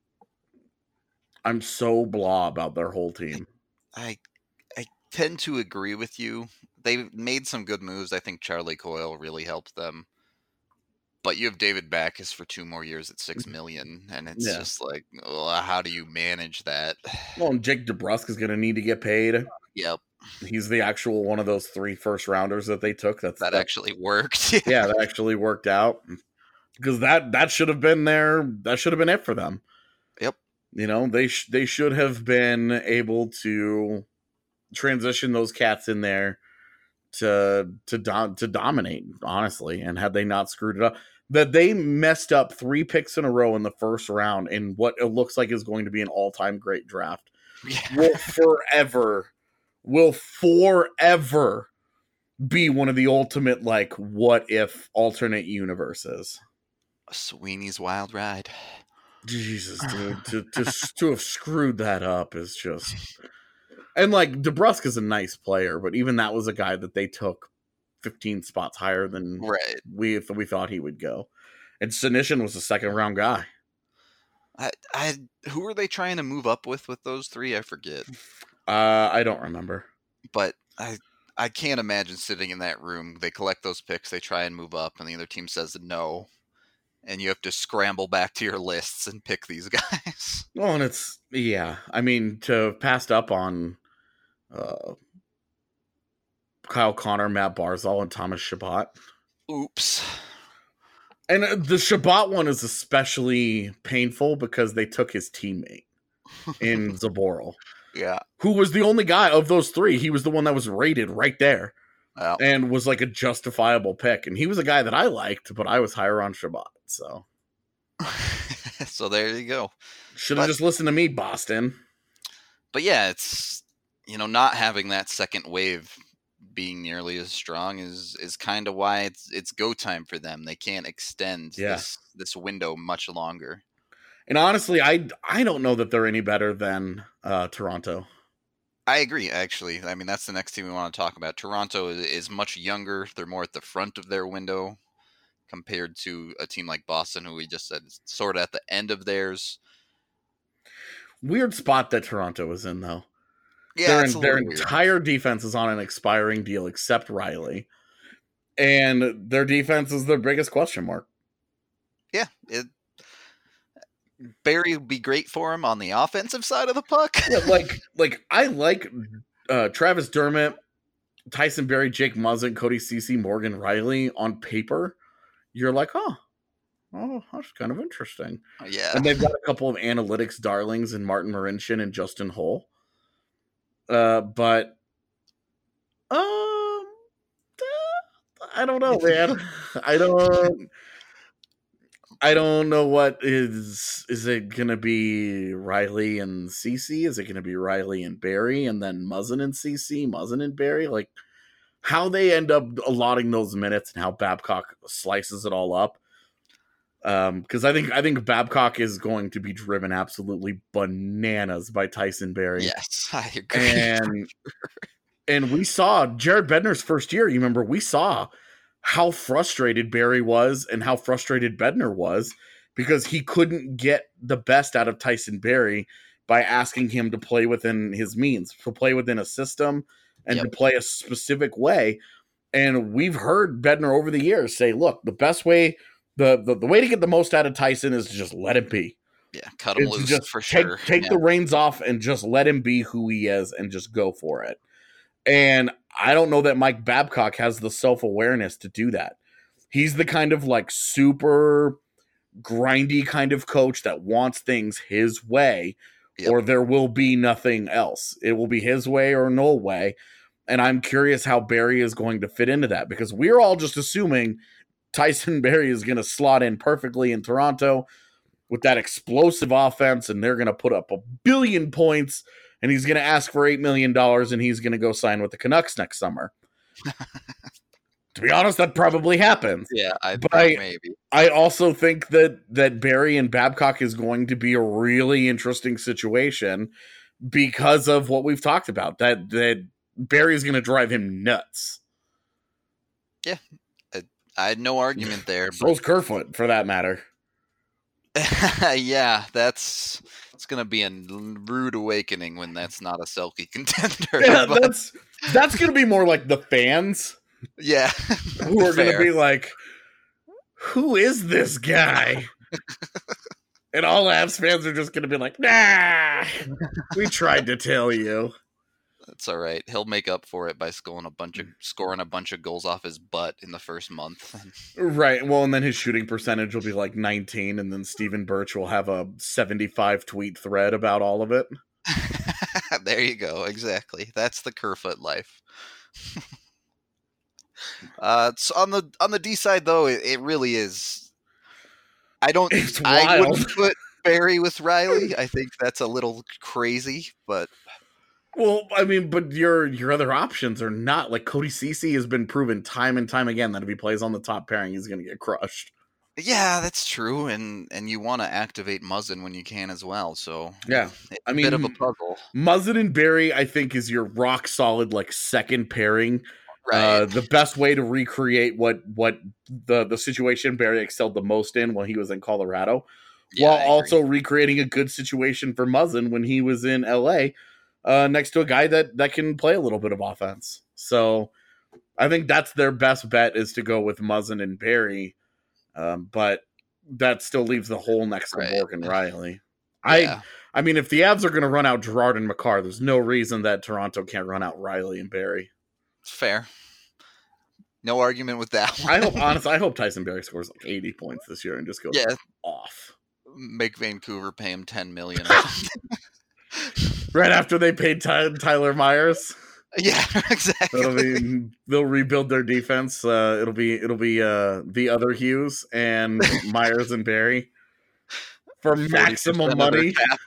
I'm so blah about their whole team. I I tend to agree with you. They made some good moves. I think Charlie Coyle really helped them. But you have David Backes for two more years at six million dollars, and it's yeah. just like, well, how do you manage that? Well, and Jake DeBrusk is going to need to get paid. Yep. He's the actual one of those three first rounders that they took. That's, that that actually worked. Yeah, that actually worked out. Because that, that should have been their, that should have been it for them. Yep. You know, they sh- they should have been able to transition those cats in there to to do- to dominate, honestly. And had they not screwed it up, that they messed up three picks in a row in the first round in what it looks like is going to be an all-time great draft, Yeah. will forever, will forever be one of the ultimate, like, what if alternate universes. Sweeney's Wild Ride. Jesus, dude, to to to have screwed that up is just. And like DeBrusque is a nice player, but even that was a guy that they took fifteen spots higher than Right. we we thought he would go. And Senyshyn was a second round guy. I, I, who are they trying to move up with with those three? I forget. Uh, I don't remember. But I, I can't imagine sitting in that room. They collect those picks, they try and move up, and the other team says no, and you have to scramble back to your lists and pick these guys. Well, and it's yeah. I mean, to have passed up on uh, Kyle Connor, Matt Barzal, and Thomas Chabot. Oops. And the Chabot one is especially painful because they took his teammate in Zaboral, Yeah. who was the only guy of those three. He was the one that was rated right there Well, and was like a justifiable pick. And he was a guy that I liked, but I was higher on Chabot. So so there you go. should have But- just listened to me, Boston. But yeah, it's, you know, not having that second wave being nearly as strong is is kind of why it's it's go time for them. They can't extend Yeah. this this window much longer. And honestly, I, I don't know that they're any better than uh, Toronto. I agree, actually. I mean, that's the next team we want to talk about. Toronto is, is much younger. They're more at the front of their window compared to a team like Boston, who we just said is sort of at the end of theirs. Weird spot that Toronto is in, though. Yeah, their it's a their little weird. entire defense is on an expiring deal except Riley. And their defense is their biggest question mark. Yeah, it, Barry would be great for him on the offensive side of the puck. Yeah, like like I like uh, Travis Dermott, Tyson Berry, Jake Muzzin, Cody Ceci, Morgan Riley on paper. You're like, oh, oh, that's kind of interesting. Yeah. And they've got a couple of analytics darlings in Martin Marincin and Justin Hull. Uh, but um, I don't know, man. I don't. I don't know what is. Is it gonna be Riley and Ceci? Is it gonna be Riley and Barry, and then Muzzin and Ceci, Muzzin and Barry? Like how they end up allotting those minutes and how Babcock slices it all up. Um, because I think I think Babcock is going to be driven absolutely bananas by Tyson Berry. Yes, I agree. And and we saw Jared Bednar's first year. You remember we saw how frustrated Barry was and how frustrated Bednar was because he couldn't get the best out of Tyson Berry by asking him to play within his means, to play within a system and Yep. to play a specific way. And we've heard Bednar over the years say, look, the best way The, the the way to get the most out of Tyson is to just let him be. Yeah, cut him It's loose just for take, sure. Take yeah. the reins off and just let him be who he is and just go for it. And I don't know that Mike Babcock has the self-awareness to do that. He's the kind of like super grindy kind of coach that wants things his way, Yep. or there will be nothing else. It will be his way or no way. And I'm curious how Barry is going to fit into that because we're all just assuming Tyson Berry is going to slot in perfectly in Toronto with that explosive offense, and they're going to put up a billion points, and he's going to ask for eight million dollars, and he's going to go sign with the Canucks next summer. To be honest, that probably happens. Yeah, I But think I- maybe. I also think that that Barry and Babcock is going to be a really interesting situation because of what we've talked about. That that Barry's going to drive him nuts. I had no argument there. So's Kerfoot, for that matter. But yeah, that's it's gonna be a rude awakening when that's not a Selke contender. Yeah, but- that's that's going to be more like the fans yeah, who are going to fair. be like, "Who is this guy?" And all Avs fans are just going to be like, "Nah, we tried to tell you." That's all right. He'll make up for it by scoring a bunch of scoring a bunch of goals off his butt in the first month. Right. Well, and then his shooting percentage will be like nineteen, and then Stephen Birch will have a seventy-five tweet thread about all of it. There you go. Exactly. That's the Kerfoot life. uh, so on the on the D side, though, it, it really is. I don't. It's I wild. wouldn't put Barry with Riley. I think that's a little crazy, but. Well, I mean, but your your other options are not like Cody Ceci has been proven time and time again that if he plays on the top pairing, he's going to get crushed. Yeah, that's true, and and you want to activate Muzzin when you can as well. So yeah, it's I a mean, bit of a puzzle. Muzzin and Barry, I think, is your rock solid like second pairing. Right. Uh, the best way to recreate what what the the situation Barry excelled the most in when he was in Colorado, Yeah, while I agree. also recreating a good situation for Muzzin when he was in L A. Uh, next to a guy that, that can play a little bit of offense. So I think that's their best bet is to go with Muzzin and Barry. Um, but that still leaves the hole next to Right. Bork and Riley. Yeah. I I mean, if the Avs are going to run out Gerard and Makar, there's no reason that Toronto can't run out Riley and Barry. Fair. No argument with that one. I hope, honestly, I hope Tyson Barry scores like eighty points this year and just goes Yeah. off. Make Vancouver pay him ten million dollars. Right after they paid Ty- Tyler Myers. Yeah, exactly. It'll be, they'll rebuild their defense. Uh, it'll be it'll be uh, the other Hughes and Myers and Barry for maximum forty percent of their money. cap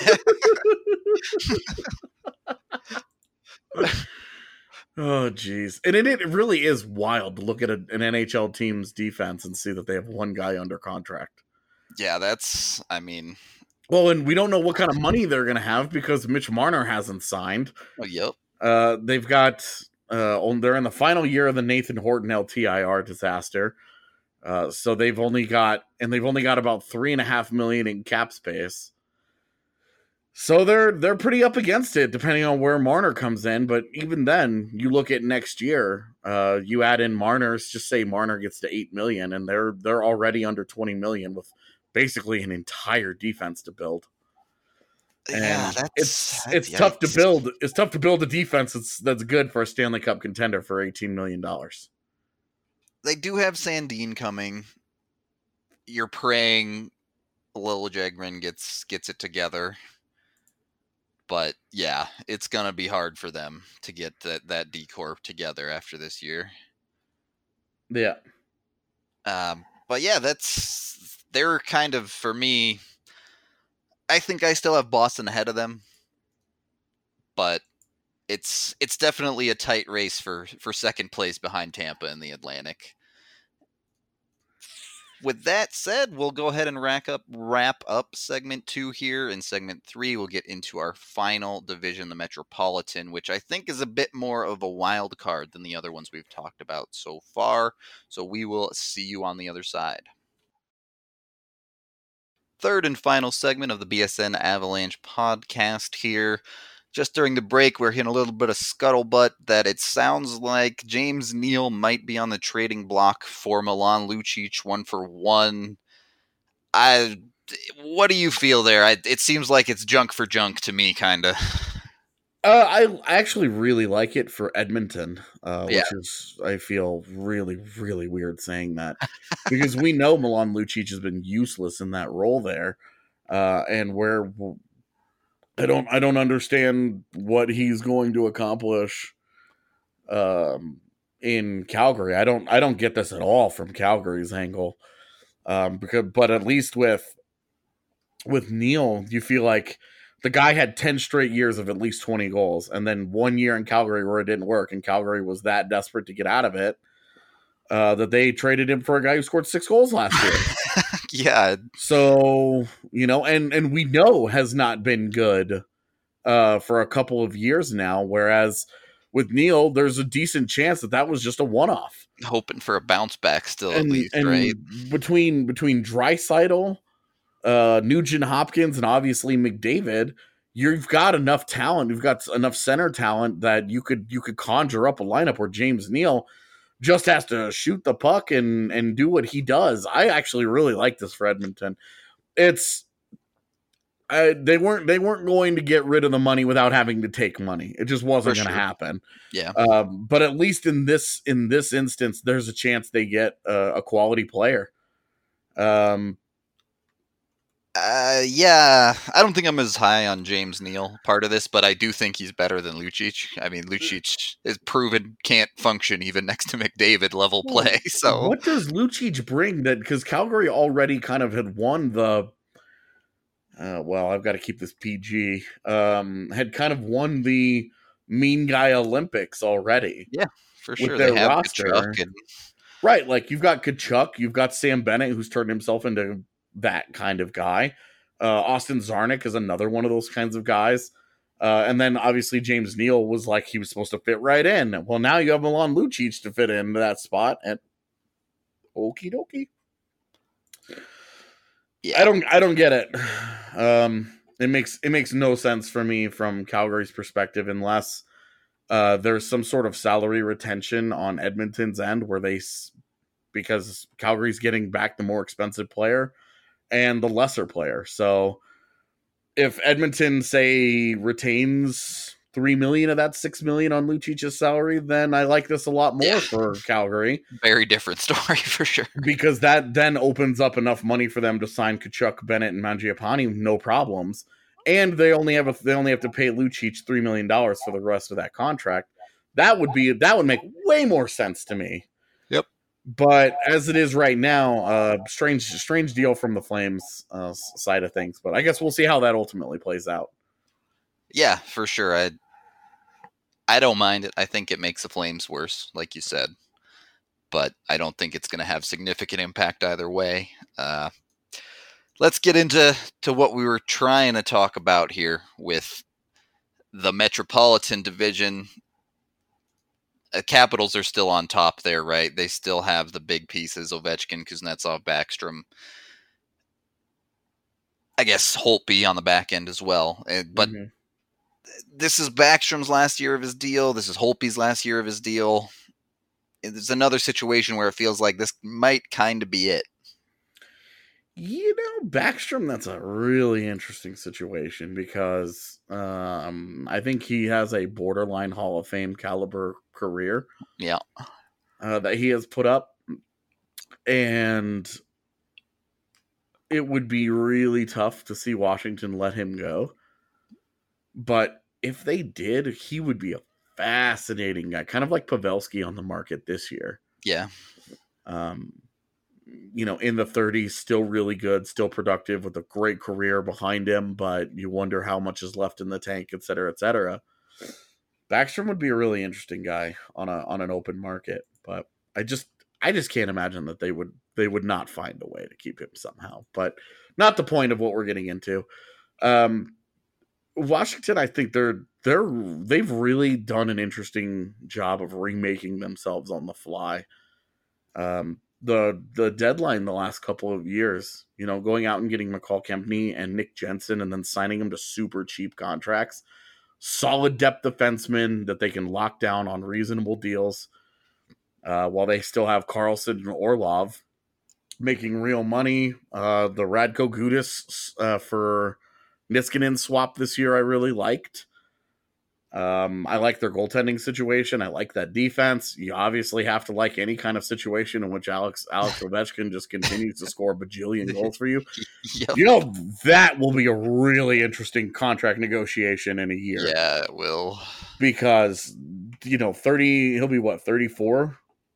hit. Oh, geez. And it, it really is wild to look at a, an N H L team's defense and see that they have one guy under contract. Yeah, that's, I mean, Well, and we don't know what kind of money they're going to have because Mitch Marner hasn't signed. oh, yep. Uh, they've got, uh, on, they're in the final year of the Nathan Horton L T I R disaster. Uh, so they've only got, and they've only got about three and a half million in cap space. So they're they're pretty up against it, depending on where Marner comes in. But even then, you look at next year. Uh, you add in Marner's. Just say Marner gets to eight million, and they're they're already under twenty million with basically an entire defense to build. And Yeah, that's it's that's it's tough to yikes. build. It's tough to build a defense that's that's good for a Stanley Cup contender for eighteen million dollars. They do have Sandin coming. You're praying Liljegren gets gets it together. But yeah, it's gonna be hard for them to get that that D Corp together after this year. Yeah. Um, but yeah, that's they're kind of for me. I think I still have Boston ahead of them, but it's it's definitely a tight race for for second place behind Tampa in the Atlantic. With that said, we'll go ahead and wrap up wrap up segment two here. In segment three, we'll get into our final division, the Metropolitan, which I think is a bit more of a wild card than the other ones we've talked about so far. So we will see you on the other side. Third and final segment of the B S N Avalanche podcast here. Just during the break, we're hearing a little bit of scuttlebutt that it sounds like James Neal might be on the trading block for Milan Lucic, one for one. I, what do you feel there? I, it seems like it's junk for junk to me, kind of. Uh, I, I actually really like it for Edmonton, uh, which Yeah. is, I feel really, really weird saying that because we know Milan Lucic has been useless in that role there. Uh, and where I don't, I don't understand what he's going to accomplish um, in Calgary. I don't, I don't get this at all from Calgary's angle. Um, because, but at least with, with Neil, you feel like the guy had ten straight years of at least twenty goals, and then one year in Calgary where it didn't work, and Calgary was that desperate to get out of it uh, that they traded him for a guy who scored six goals last year. Yeah. So, you know, and, and we know has not been good uh, for a couple of years now, whereas with Neil, there's a decent chance that that was just a one-off. Hoping for a bounce back still, at And, least, and right? between, between Draisaitl, uh, Nugent Hopkins, and obviously McDavid, you've got enough talent. You've got enough center talent that you could you could conjure up a lineup where James Neal just has to shoot the puck and and do what he does. I actually really like this for Edmonton. It's I, they weren't they weren't going to get rid of the money without having to take money. It just wasn't going to sure. happen. Yeah. Um, but at least in this in this instance, there's a chance they get a, a quality player. Um. Uh, yeah, I don't think I'm as high on James Neal part of this, but I do think he's better than Lucic. I mean, Lucic is proven can't function even next to McDavid level play. So what does Lucic bring that? Because Calgary already kind of had won the. Uh, well, I've got to keep this P G. Um, had kind of won the mean guy Olympics already. Yeah, for sure. With their they have roster, and... right? Like you've got Kachuk, you've got Sam Bennett, who's turned himself into that kind of guy. Uh, Austin Zarnik is another one of those kinds of guys. Uh, and then obviously James Neal was like he was supposed to fit right in. Well, now you have Milan Lucic to fit into that spot. And okie dokie. Yeah, I don't I don't get it. Um, it makes it makes no sense for me from Calgary's perspective unless uh, there's some sort of salary retention on Edmonton's end where they because Calgary's getting back the more expensive player and the lesser player. So if Edmonton, say, retains three million of that six million on Lucic's salary, then I like this a lot more yeah. for Calgary. Very different story for sure. Because that then opens up enough money for them to sign Kachuk, Bennett, and Mangiapane, no problems. And they only have a, they only have to pay Lucic three million dollars for the rest of that contract. That would be that would make way more sense to me. Yep. But as it is right now, uh, strange, strange deal from the Flames uh, side of things. But I guess we'll see how that ultimately plays out. Yeah, for sure. I I don't mind it. I think it makes the Flames worse, like you said. But I don't think it's going to have significant impact either way. Uh, let's get into to what we were trying to talk about here with the Metropolitan Division. Uh, Capitals are still on top there, right? They still have the big pieces, Ovechkin, Kuznetsov, Backstrom. I guess Holtby on the back end as well. Uh, but mm-hmm. This is Backstrom's last year of his deal. This is Holtby's last year of his deal. It's another situation where it feels like this might kind of be it. You know, Backstrom, that's a really interesting situation because um, I think he has a borderline Hall of Fame caliber career. Yeah. Uh, that he has put up. And it would be really tough to see Washington let him go. But if they did, he would be a fascinating guy, kind of like Pavelski on the market this year. Yeah. Um, you know, in the thirties, still really good, still productive with a great career behind him, but you wonder how much is left in the tank, et cetera, et cetera. Backstrom would be a really interesting guy on a on an open market, but I just I just can't imagine that they would they would not find a way to keep him somehow. But not the point of what we're getting into. Um, Washington, I think they're they're they've really done an interesting job of remaking themselves on the fly. Um, the the deadline the last couple of years, you know, going out and getting McCall Kempney and Nick Jensen and then signing them to super cheap contracts, solid depth defensemen that they can lock down on reasonable deals, uh, while they still have Carlson and Orlov making real money. Uh, the Radko Gudas uh, for Niskanen swap this year I really liked. Um, I like their goaltending situation. I like that defense. You obviously have to like any kind of situation in which Alex Alex Ovechkin just continues to score a bajillion goals for you. Yep. You know, that will be a really interesting contract negotiation in a year. Yeah, it will. Because, you know, thirty, he'll be what, thirty-four?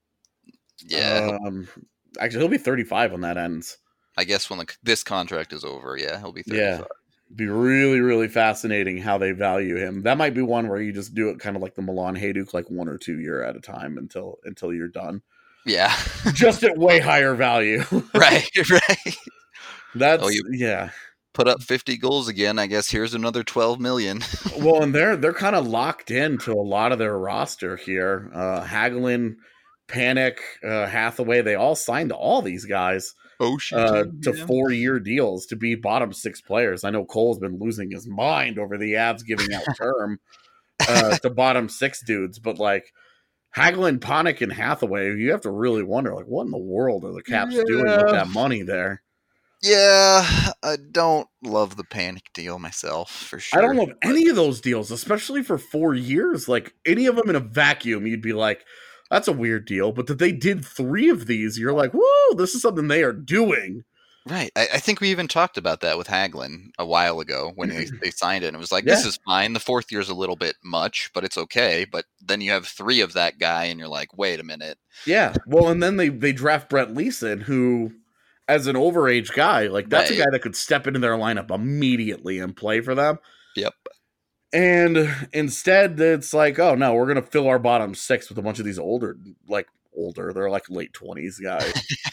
Yeah. Um, actually, he'll be thirty-five when that ends. I guess when the, this contract is over, yeah, he'll be thirty-five. Yeah. Be really, really fascinating how they value him. That might be one where you just do it kind of like the Milan Hajduk, like one or two year at a time until until you're done. Yeah, just at way higher value. Right, right. That's oh, you yeah. Put up fifty goals again. I guess here's another twelve million. Well, and they're they're kind of locked into a lot of their roster here. Uh, Hagelin, Panic, uh, Hathaway. They all signed to all these guys. Oh, shit. Uh, to yeah. four-year deals to be bottom six players. I know Cole's been losing his mind over the Avs giving out term uh, to bottom six dudes, but like Hagelin, Panik, and Hathaway, you have to really wonder, like, what in the world are the Caps yeah. doing with that money there? Yeah, I don't love the Panic deal myself, for sure. I don't love any of those deals, especially for four years. Like, any of them in a vacuum, you'd be like, that's a weird deal. But that they did three of these, you're like, whoa, this is something they are doing. Right. I, I think we even talked about that with Hagelin a while ago when they, they signed it. And it was like, this Yeah. is fine. The fourth year is a little bit much, but it's okay. But then you have three of that guy, and you're like, wait a minute. Yeah. Well, and then they, they draft Brett Leeson, who, as an overage guy, like, that's Right. a guy that could step into their lineup immediately and play for them. Yep. And instead, it's like, oh, no, we're going to fill our bottom six with a bunch of these older, like, older, they're like late twenties guys.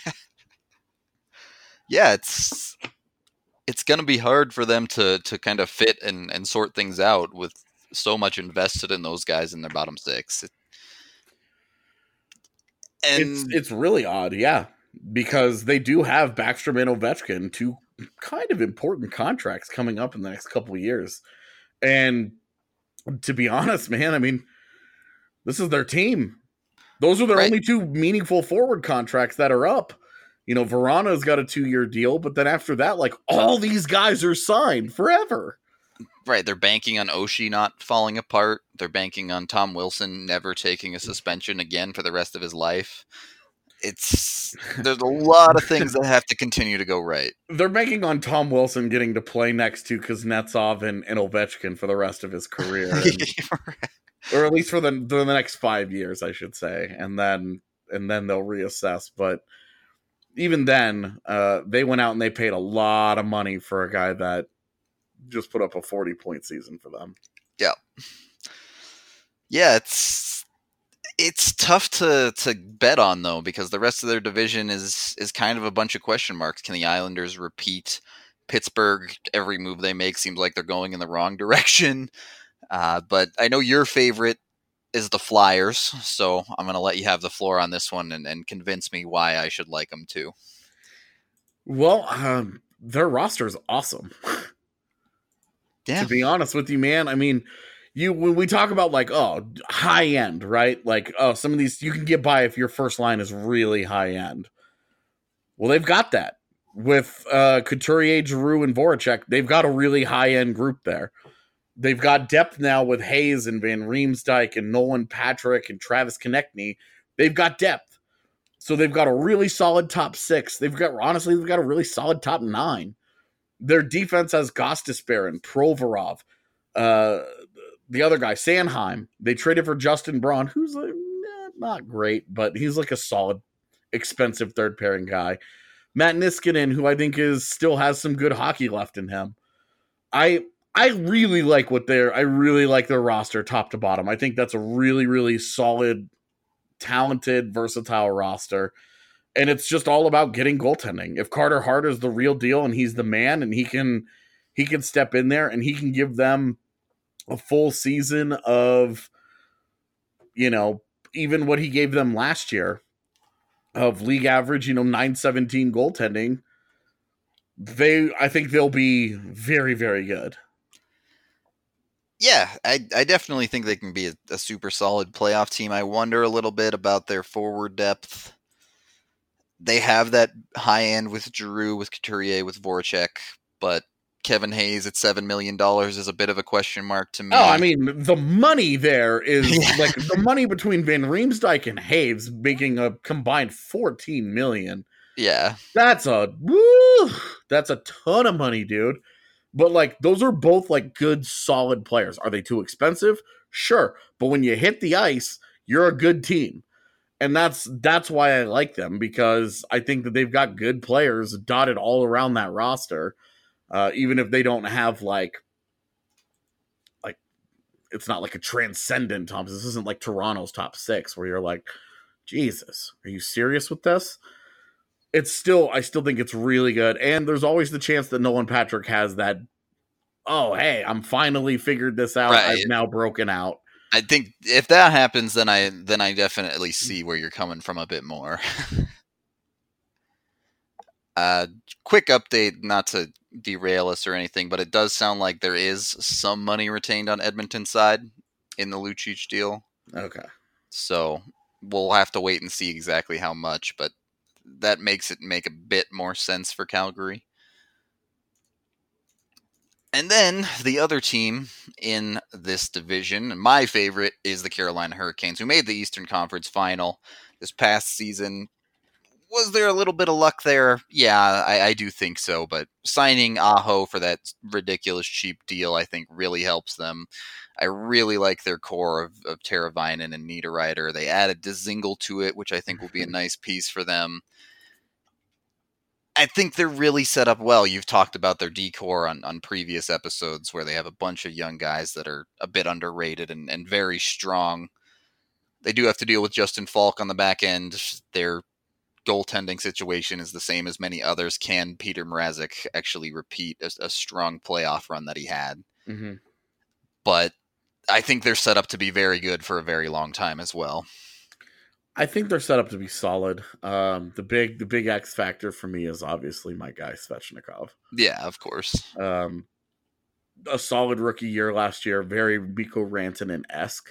Yeah, it's it's going to be hard for them to to kind of fit and, and sort things out with so much invested in those guys in their bottom six. It, and It's it's really odd, yeah, because they do have Backstrom and Ovechkin, two kind of important contracts coming up in the next couple of years. And to be honest, man, I mean, this is their team. Those are their Right. only two meaningful forward contracts that are up. You know, Verano's got a two-year deal, but then after that, like, all these guys are signed forever. right, they're banking on Oshie not falling apart. They're banking on Tom Wilson never taking a suspension again for the rest of his life. It's there's a lot of things that have to continue to go right. They're banking on Tom Wilson getting to play next to Kuznetsov and, and Ovechkin for the rest of his career. And, or at least for the, for the next five years, I should say. And then and then they'll reassess. But even then, uh, they went out and they paid a lot of money for a guy that just put up a forty-point season for them. Yeah. Yeah, it's it's tough to, to bet on, though, because the rest of their division is is kind of a bunch of question marks. Can the Islanders repeat? Pittsburgh, every move they make seems like they're going in the wrong direction. Uh, but I know your favorite is the Flyers, so I'm going to let you have the floor on this one and, and convince me why I should like them too. Well, um, their roster is awesome. Yeah. To be honest with you, man, I mean, you when we talk about like, oh, high end, right? Like, oh, some of these you can get by if your first line is really high end. Well, they've got that with uh, Couturier, Giroux, and Voracek. They've got a really high end group there. They've got depth now with Hayes and Van Riemsdyk and Nolan Patrick and Travis Konechny. They've got depth. So they've got a really solid top six. They've got, honestly, they've got a really solid top nine. Their defense has Gostisbehere, Provorov, uh, the other guy, Sanheim. They traded for Justin Braun, who's like, eh, not great, but he's like a solid, expensive third pairing guy. Matt Niskanen, who I think is still has some good hockey left in him. I I really like what they're. I really like their roster, top to bottom. I think that's a really, really solid, talented, versatile roster. And it's just all about getting goaltending. If Carter Hart is the real deal and he's the man and he can he can step in there and he can give them a full season of, you know, even what he gave them last year of league average, you know, nine seventeen goaltending, they I think they'll be very, very good. Yeah, I, I definitely think they can be a, a super solid playoff team. I wonder a little bit about their forward depth. They have that high end with Giroux, with Couturier, with Voracek, but Kevin Hayes at seven million dollars is a bit of a question mark to me. Oh, I mean, the money there is Yeah. like the money between Van Riemsdyk and Hayes making a combined fourteen million. Yeah. That's a woo, that's a ton of money, dude. But like those are both like good, solid players. Are they too expensive? Sure. But when you hit the ice, you're a good team. And that's that's why I like them, because I think that they've got good players dotted all around that roster. Uh, even if they don't have like like it's not like a transcendent top. This isn't like Toronto's top six where you're like, Jesus, are you serious with this? It's still, I still think it's really good. And there's always the chance that Nolan Patrick has that, oh, hey, I'm finally figured this out. Right. I've now broken out. I think if that happens, then I then I definitely see where you're coming from a bit more. uh, quick update, not to derail us or anything, but it does sound like there is some money retained on Edmonton's side in the Lucic deal. Okay. So we'll have to wait and see exactly how much, but that makes it make a bit more sense for Calgary. And then the other team in this division, my favorite, is the Carolina Hurricanes, who made the Eastern Conference Final this past season. Was there a little bit of luck there? Yeah, I, I do think so. But signing Aho for that ridiculous cheap deal, I think, really helps them. I really like their core of, of Teravainen and Niederreiter. They added Dzingel to it, which I think will be a nice piece for them. I think they're really set up well. You've talked about their D-core on, on previous episodes where they have a bunch of young guys that are a bit underrated and, and very strong. They do have to deal with Justin Falk on the back end. Their goaltending situation is the same as many others. Can Peter Mrazek actually repeat a, a strong playoff run that he had? Mm-hmm. But I think they're set up to be very good for a very long time as well. I think they're set up to be solid. Um, the big the big X factor for me is obviously my guy Svechnikov. Yeah, of course. Um, a solid rookie year last year, very Mikko Rantanen-esque.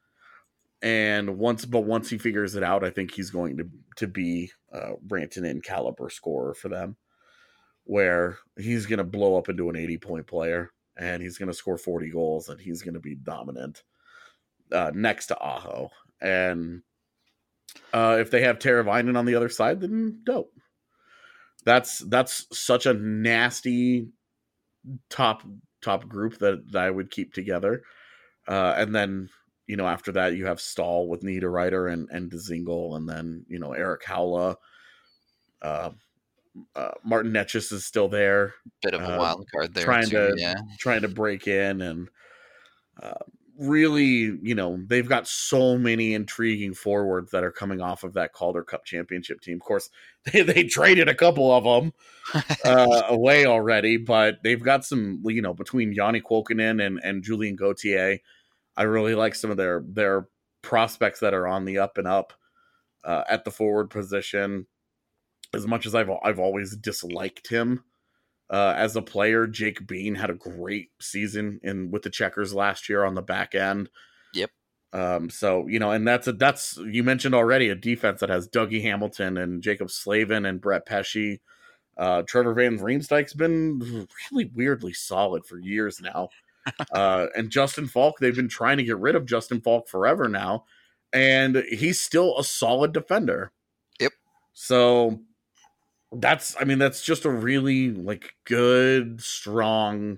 And once, but once he figures it out, I think he's going to to be a Rantanen caliber scorer for them, where he's going to blow up into an eighty point player and he's going to score forty goals and he's going to be dominant uh, next to Aho. And uh, if they have Teravainen on the other side, then dope. That's that's such a nasty top top group that, that I would keep together, uh, and then. You know, after that, you have Stahl with Niederreiter and, and Dzingel, and then, you know, Eric Haula. Uh, uh, Martin Necas is still there. Bit of a uh, wild card there, trying too, to, yeah. Trying to break in. And uh, really, you know, they've got so many intriguing forwards that are coming off of that Calder Cup championship team. Of course, they, they traded a couple of them uh, away already, but they've got some, you know, between Yanni Kuokkanen and, and Julien Gauthier. I really like some of their their prospects that are on the up and up uh, at the forward position. As much as I've I've always disliked him uh, as a player, Jake Bean had a great season in with the Checkers last year on the back end. Yep. Um. So you know, and that's a that's you mentioned already a defense that has Dougie Hamilton and Jacob Slavin and Brett Pesce. Uh, Trevor Van Riemsdyk's been really weirdly solid for years now. uh, and Justin Falk, they've been trying to get rid of Justin Falk forever now, and he's still a solid defender. Yep. So that's, I mean, that's just a really like good, strong,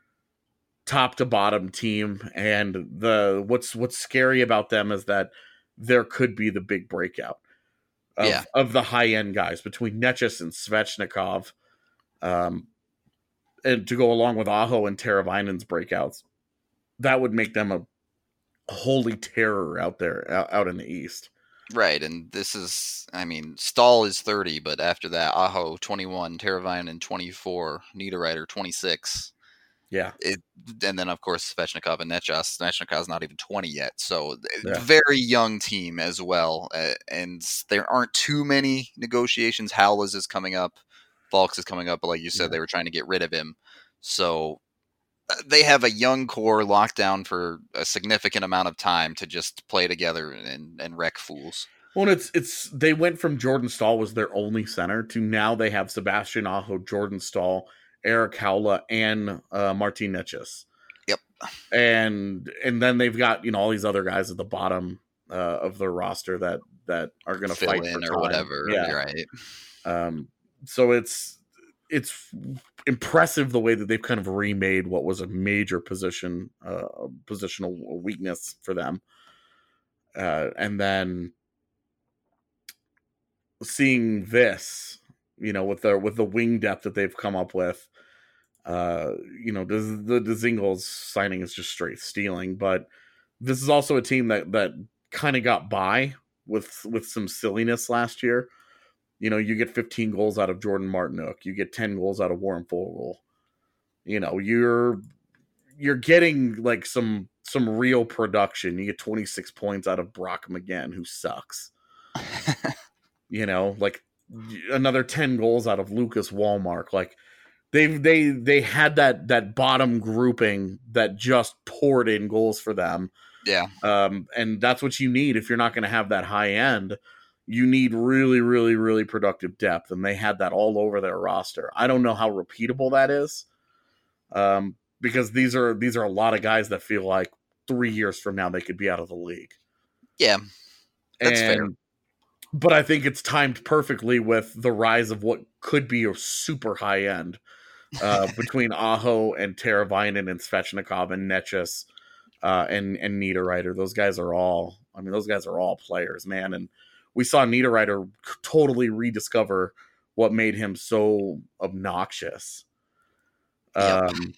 top to bottom team. And the what's what's scary about them is that there could be the big breakout of, yeah. of the high end guys between Necas and Svechnikov. Um, And to go along with Aho and Teravainen's breakouts, that would make them a holy terror out there, out, out in the East. Right, and this is, I mean, Stahl is thirty, but after that, Aho twenty-one, Teravainen twenty-four, Niederreiter twenty-six. Yeah. It, and then, of course, Svechnikov and Necas. Svechnikov's not even twenty yet, so yeah. very young team as well. Uh, and there aren't too many negotiations. Howlers is coming up. Falks is coming up, but like you said, yeah. they were trying to get rid of him. So they have a young core locked down for a significant amount of time to just play together and, and wreck fools. Well, it's it's they went from Jordan Stahl was their only center to now they have Sebastian Aho, Jordan Stahl, Eric Haula, and uh, Martin Necas. Yep. And and then they've got, you know, all these other guys at the bottom uh, of their roster that that are going to fight in for or time. whatever. Yeah. Right. Um. So it's it's impressive the way that they've kind of remade what was a major position, uh, positional weakness for them. Uh, and then seeing this, you know, with their with the wing depth that they've come up with, uh, you know, the the, the Dzingels signing is just straight stealing. But this is also a team that that kind of got by with with some silliness last year. You know, you get fifteen goals out of Jordan Martinook. You get ten goals out of Warren Foegele. You know, you're you're getting like some some real production. You get twenty-six points out of Brock McGinn, who sucks. You know, like another ten goals out of Lucas Wallmark. Like they they they had that that bottom grouping that just poured in goals for them. Yeah. Um, and that's what you need if you're not going to have that high end. You need really, really, really productive depth, and they had that all over their roster. I don't know how repeatable that is, um, because these are these are a lot of guys that feel like three years from now they could be out of the league. Yeah, that's and, fair. But I think it's timed perfectly with the rise of what could be a super high end uh, between Aho and Teravainen and Svechnikov and Netchus uh, and and Niederreiter. Those guys are all. I mean, those guys are all players, man. And we saw Niederreiter totally rediscover what made him so obnoxious. Yep. Um,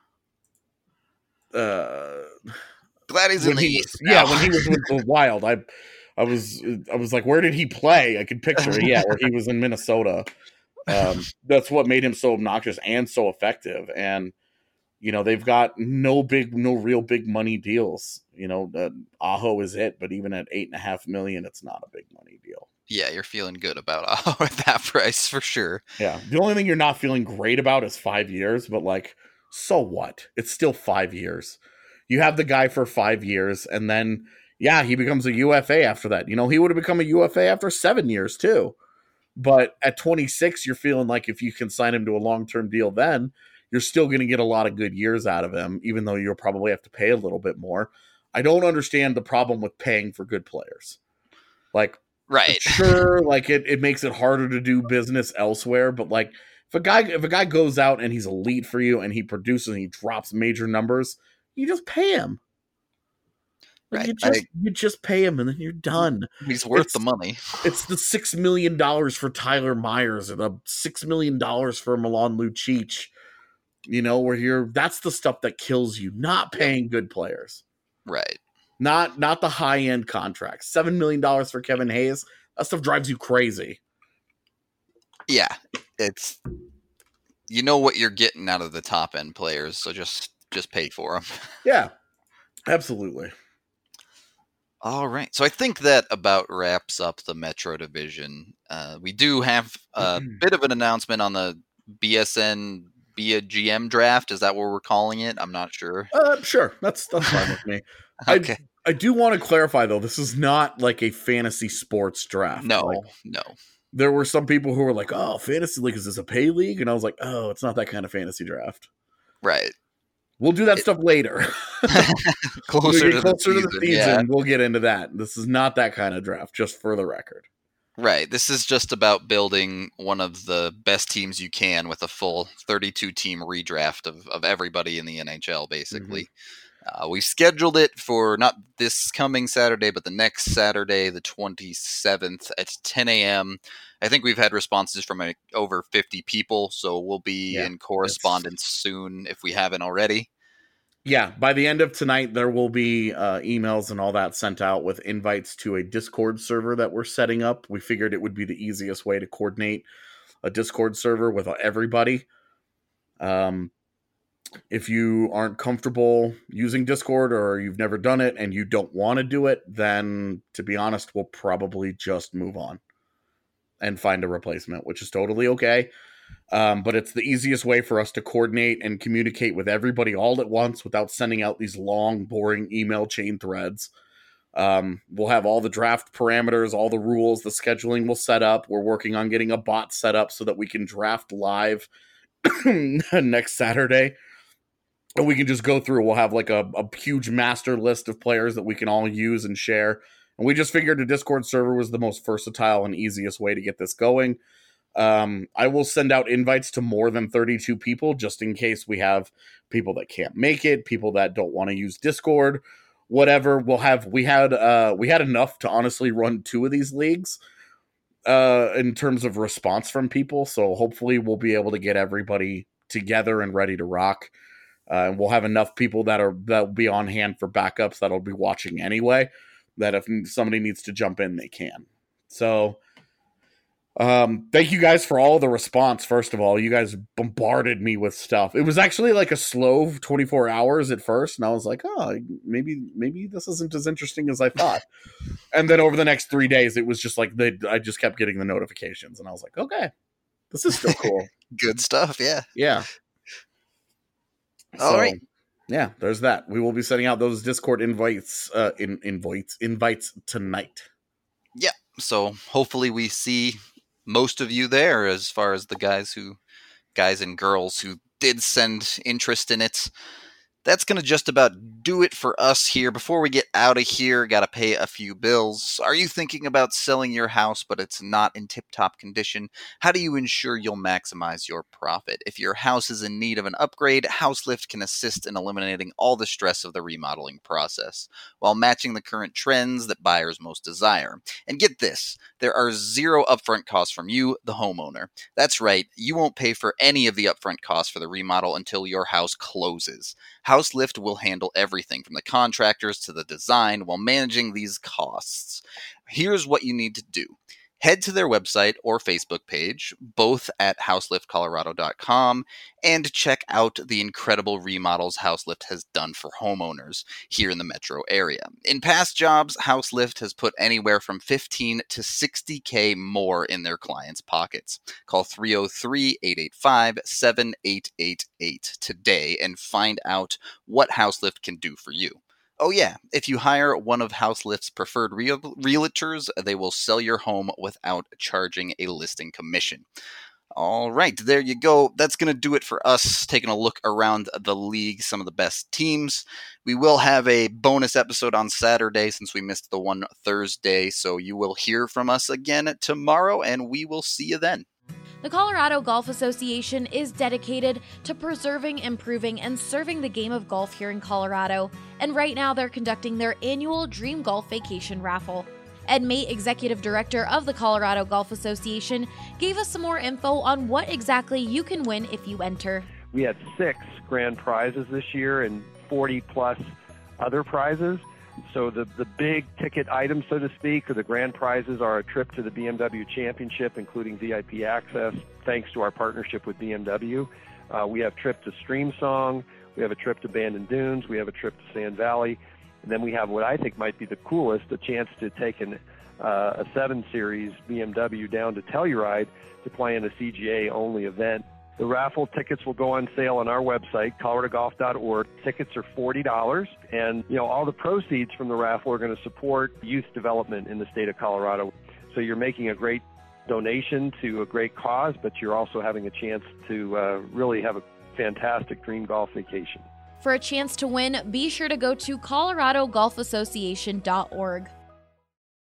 uh, Glad he's in the he, East. Yeah, now. when he was with the Wild, I, I was, I was like, where did he play? I could picture it. Yeah, where he was in Minnesota. Um, that's what made him so obnoxious and so effective. And you know, they've got no big, no real big money deals. You know, uh, Aho is it, but even at eight and a half million, it's not a big money deal. Yeah, you're feeling good about Aho at that price for sure. Yeah, the only thing you're not feeling great about is five years, but like, so what? It's still five years. You have the guy for five years, and then yeah, he becomes a U F A after that. You know, he would have become a U F A after seven years too. But at twenty-six, you're feeling like if you can sign him to a long-term deal, then you're still going to get a lot of good years out of him, even though you'll probably have to pay a little bit more. I don't understand the problem with paying for good players. Like, right. Sure, like it, it makes it harder to do business elsewhere, but like if a guy if a guy goes out and he's elite for you and he produces and he drops major numbers, you just pay him. Like Right. you just I, you just pay him and then you're done. He's worth It's- the money. It's the six million dollars for Tyler Myers or the six million dollars for Milan Lucic. You know, where you're that's the stuff that kills you, not paying good players. Right. Not not the high end contracts. Seven million dollars for Kevin Hayes. That stuff drives you crazy. Yeah. It's you know what you're getting out of the top end players, so just just pay for them. Yeah, absolutely. All right. So I think that about wraps up the Metro division. Uh, we do have a bit of an announcement on the B S N Be a G M draft. Is that what we're calling it? I'm not sure. Uh, sure, that's that's fine with me. Okay. I, I do want to clarify though, this is not like a fantasy sports draft. No, Like, no. there were some people who were like, "Oh, fantasy league, is this a pay league?" And I was like, "Oh, it's not that kind of fantasy draft. Right. We'll do that stuff later. Closer, we to, get closer the to the season, season, yeah. we'll get into that. This is not that kind of draft, just for the record. Right. This is just about building one of the best teams you can with a full thirty-two team redraft of, of everybody in the N H L, basically. Mm-hmm. Uh, we scheduled it for not this coming Saturday, but the next Saturday, the twenty-seventh at ten a.m. I think we've had responses from uh, over fifty people, so we'll be Yeah, in correspondence soon if we haven't already. Yeah, by the end of tonight, there will be uh, emails and all that sent out with invites to a Discord server that we're setting up. We figured it would be the easiest way to coordinate a Discord server with everybody. Um, if you aren't comfortable using Discord or you've never done it and you don't want to do it, then to be honest, we'll probably just move on and find a replacement, which is totally okay. Um, but it's the easiest way for us to coordinate and communicate with everybody all at once without sending out these long, boring email chain threads. Um, we'll have all the draft parameters, all the rules, the scheduling we'll set up. We're working on getting a bot set up so that we can draft live next Saturday. And we can just go through. We'll have like a, a huge master list of players that we can all use and share. And we just figured a Discord server was the most versatile and easiest way to get this going. Um, I will send out invites to more than thirty-two people just in case we have people that can't make it, people that don't want to use Discord, whatever. We'll have, we had, uh, we had enough to honestly run two of these leagues, uh, in terms of response from people. So hopefully we'll be able to get everybody together and ready to rock. Uh, and we'll have enough people that are, that'll be on hand for backups that'll be watching anyway, that if somebody needs to jump in, they can. So, Um, thank you guys for all the response. First of all, you guys bombarded me with stuff. It was actually like a slow twenty-four hours at first. And I was like, oh, maybe, maybe this isn't as interesting as I thought. And then over the next three days, it was just like, the, I just kept getting the notifications and I was like, okay, this is still cool. Good stuff. Yeah. Yeah. All so, right. Yeah, there's that. We will be sending out those Discord invites, uh, in invites, invites tonight. Yeah. So hopefully we see most of you there as far as the guys who guys and girls who did send interest in it. That's going to just about do it for us here. Before we get out of here, got to pay a few bills. Are you thinking about selling your house, but it's not in tip-top condition? How do you ensure you'll maximize your profit? If your house is in need of an upgrade, HouseLift can assist in eliminating all the stress of the remodeling process, while matching the current trends that buyers most desire. And get this, there are zero upfront costs from you, the homeowner. That's right, you won't pay for any of the upfront costs for the remodel until your house closes. HouseLift will handle everything from the contractors to the design while managing these costs. Here's what you need to do. Head to their website or Facebook page, both at houselift colorado dot com, and check out the incredible remodels HouseLift has done for homeowners here in the metro area. In past jobs, HouseLift has put anywhere from fifteen to sixty K more in their clients' pockets. Call three oh three, eight eight five, seven eight eight eight today and find out what HouseLift can do for you. Oh yeah, if you hire one of HouseLift's preferred real- realtors, they will sell your home without charging a listing commission. All right, there you go. That's going to do it for us, taking a look around the league, some of the best teams. We will have a bonus episode on Saturday since we missed the one Thursday, so you will hear from us again tomorrow, and we will see you then. The Colorado Golf Association is dedicated to preserving, improving, and serving the game of golf here in Colorado, and right now they're conducting their annual Dream Golf Vacation Raffle. Ed Mate, Executive Director of the Colorado Golf Association, gave us some more info on what exactly you can win if you enter. We had six grand prizes this year and forty plus other prizes. So the, the big ticket items, so to speak, or the grand prizes are a trip to the B M W Championship, including V I P access, thanks to our partnership with B M W. Uh, we have a trip to Streamsong. We have a trip to Bandon Dunes. We have a trip to Sand Valley. And then we have what I think might be the coolest, a chance to take an, uh, a seven series B M W down to Telluride to play in a C G A-only event. The raffle tickets will go on sale on our website, colorado golf dot org. Tickets are forty dollars, and you know all the proceeds from the raffle are going to support youth development in the state of Colorado. So you're making a great donation to a great cause, but you're also having a chance to uh, really have a fantastic dream golf vacation. For a chance to win, be sure to go to colorado golf association dot org.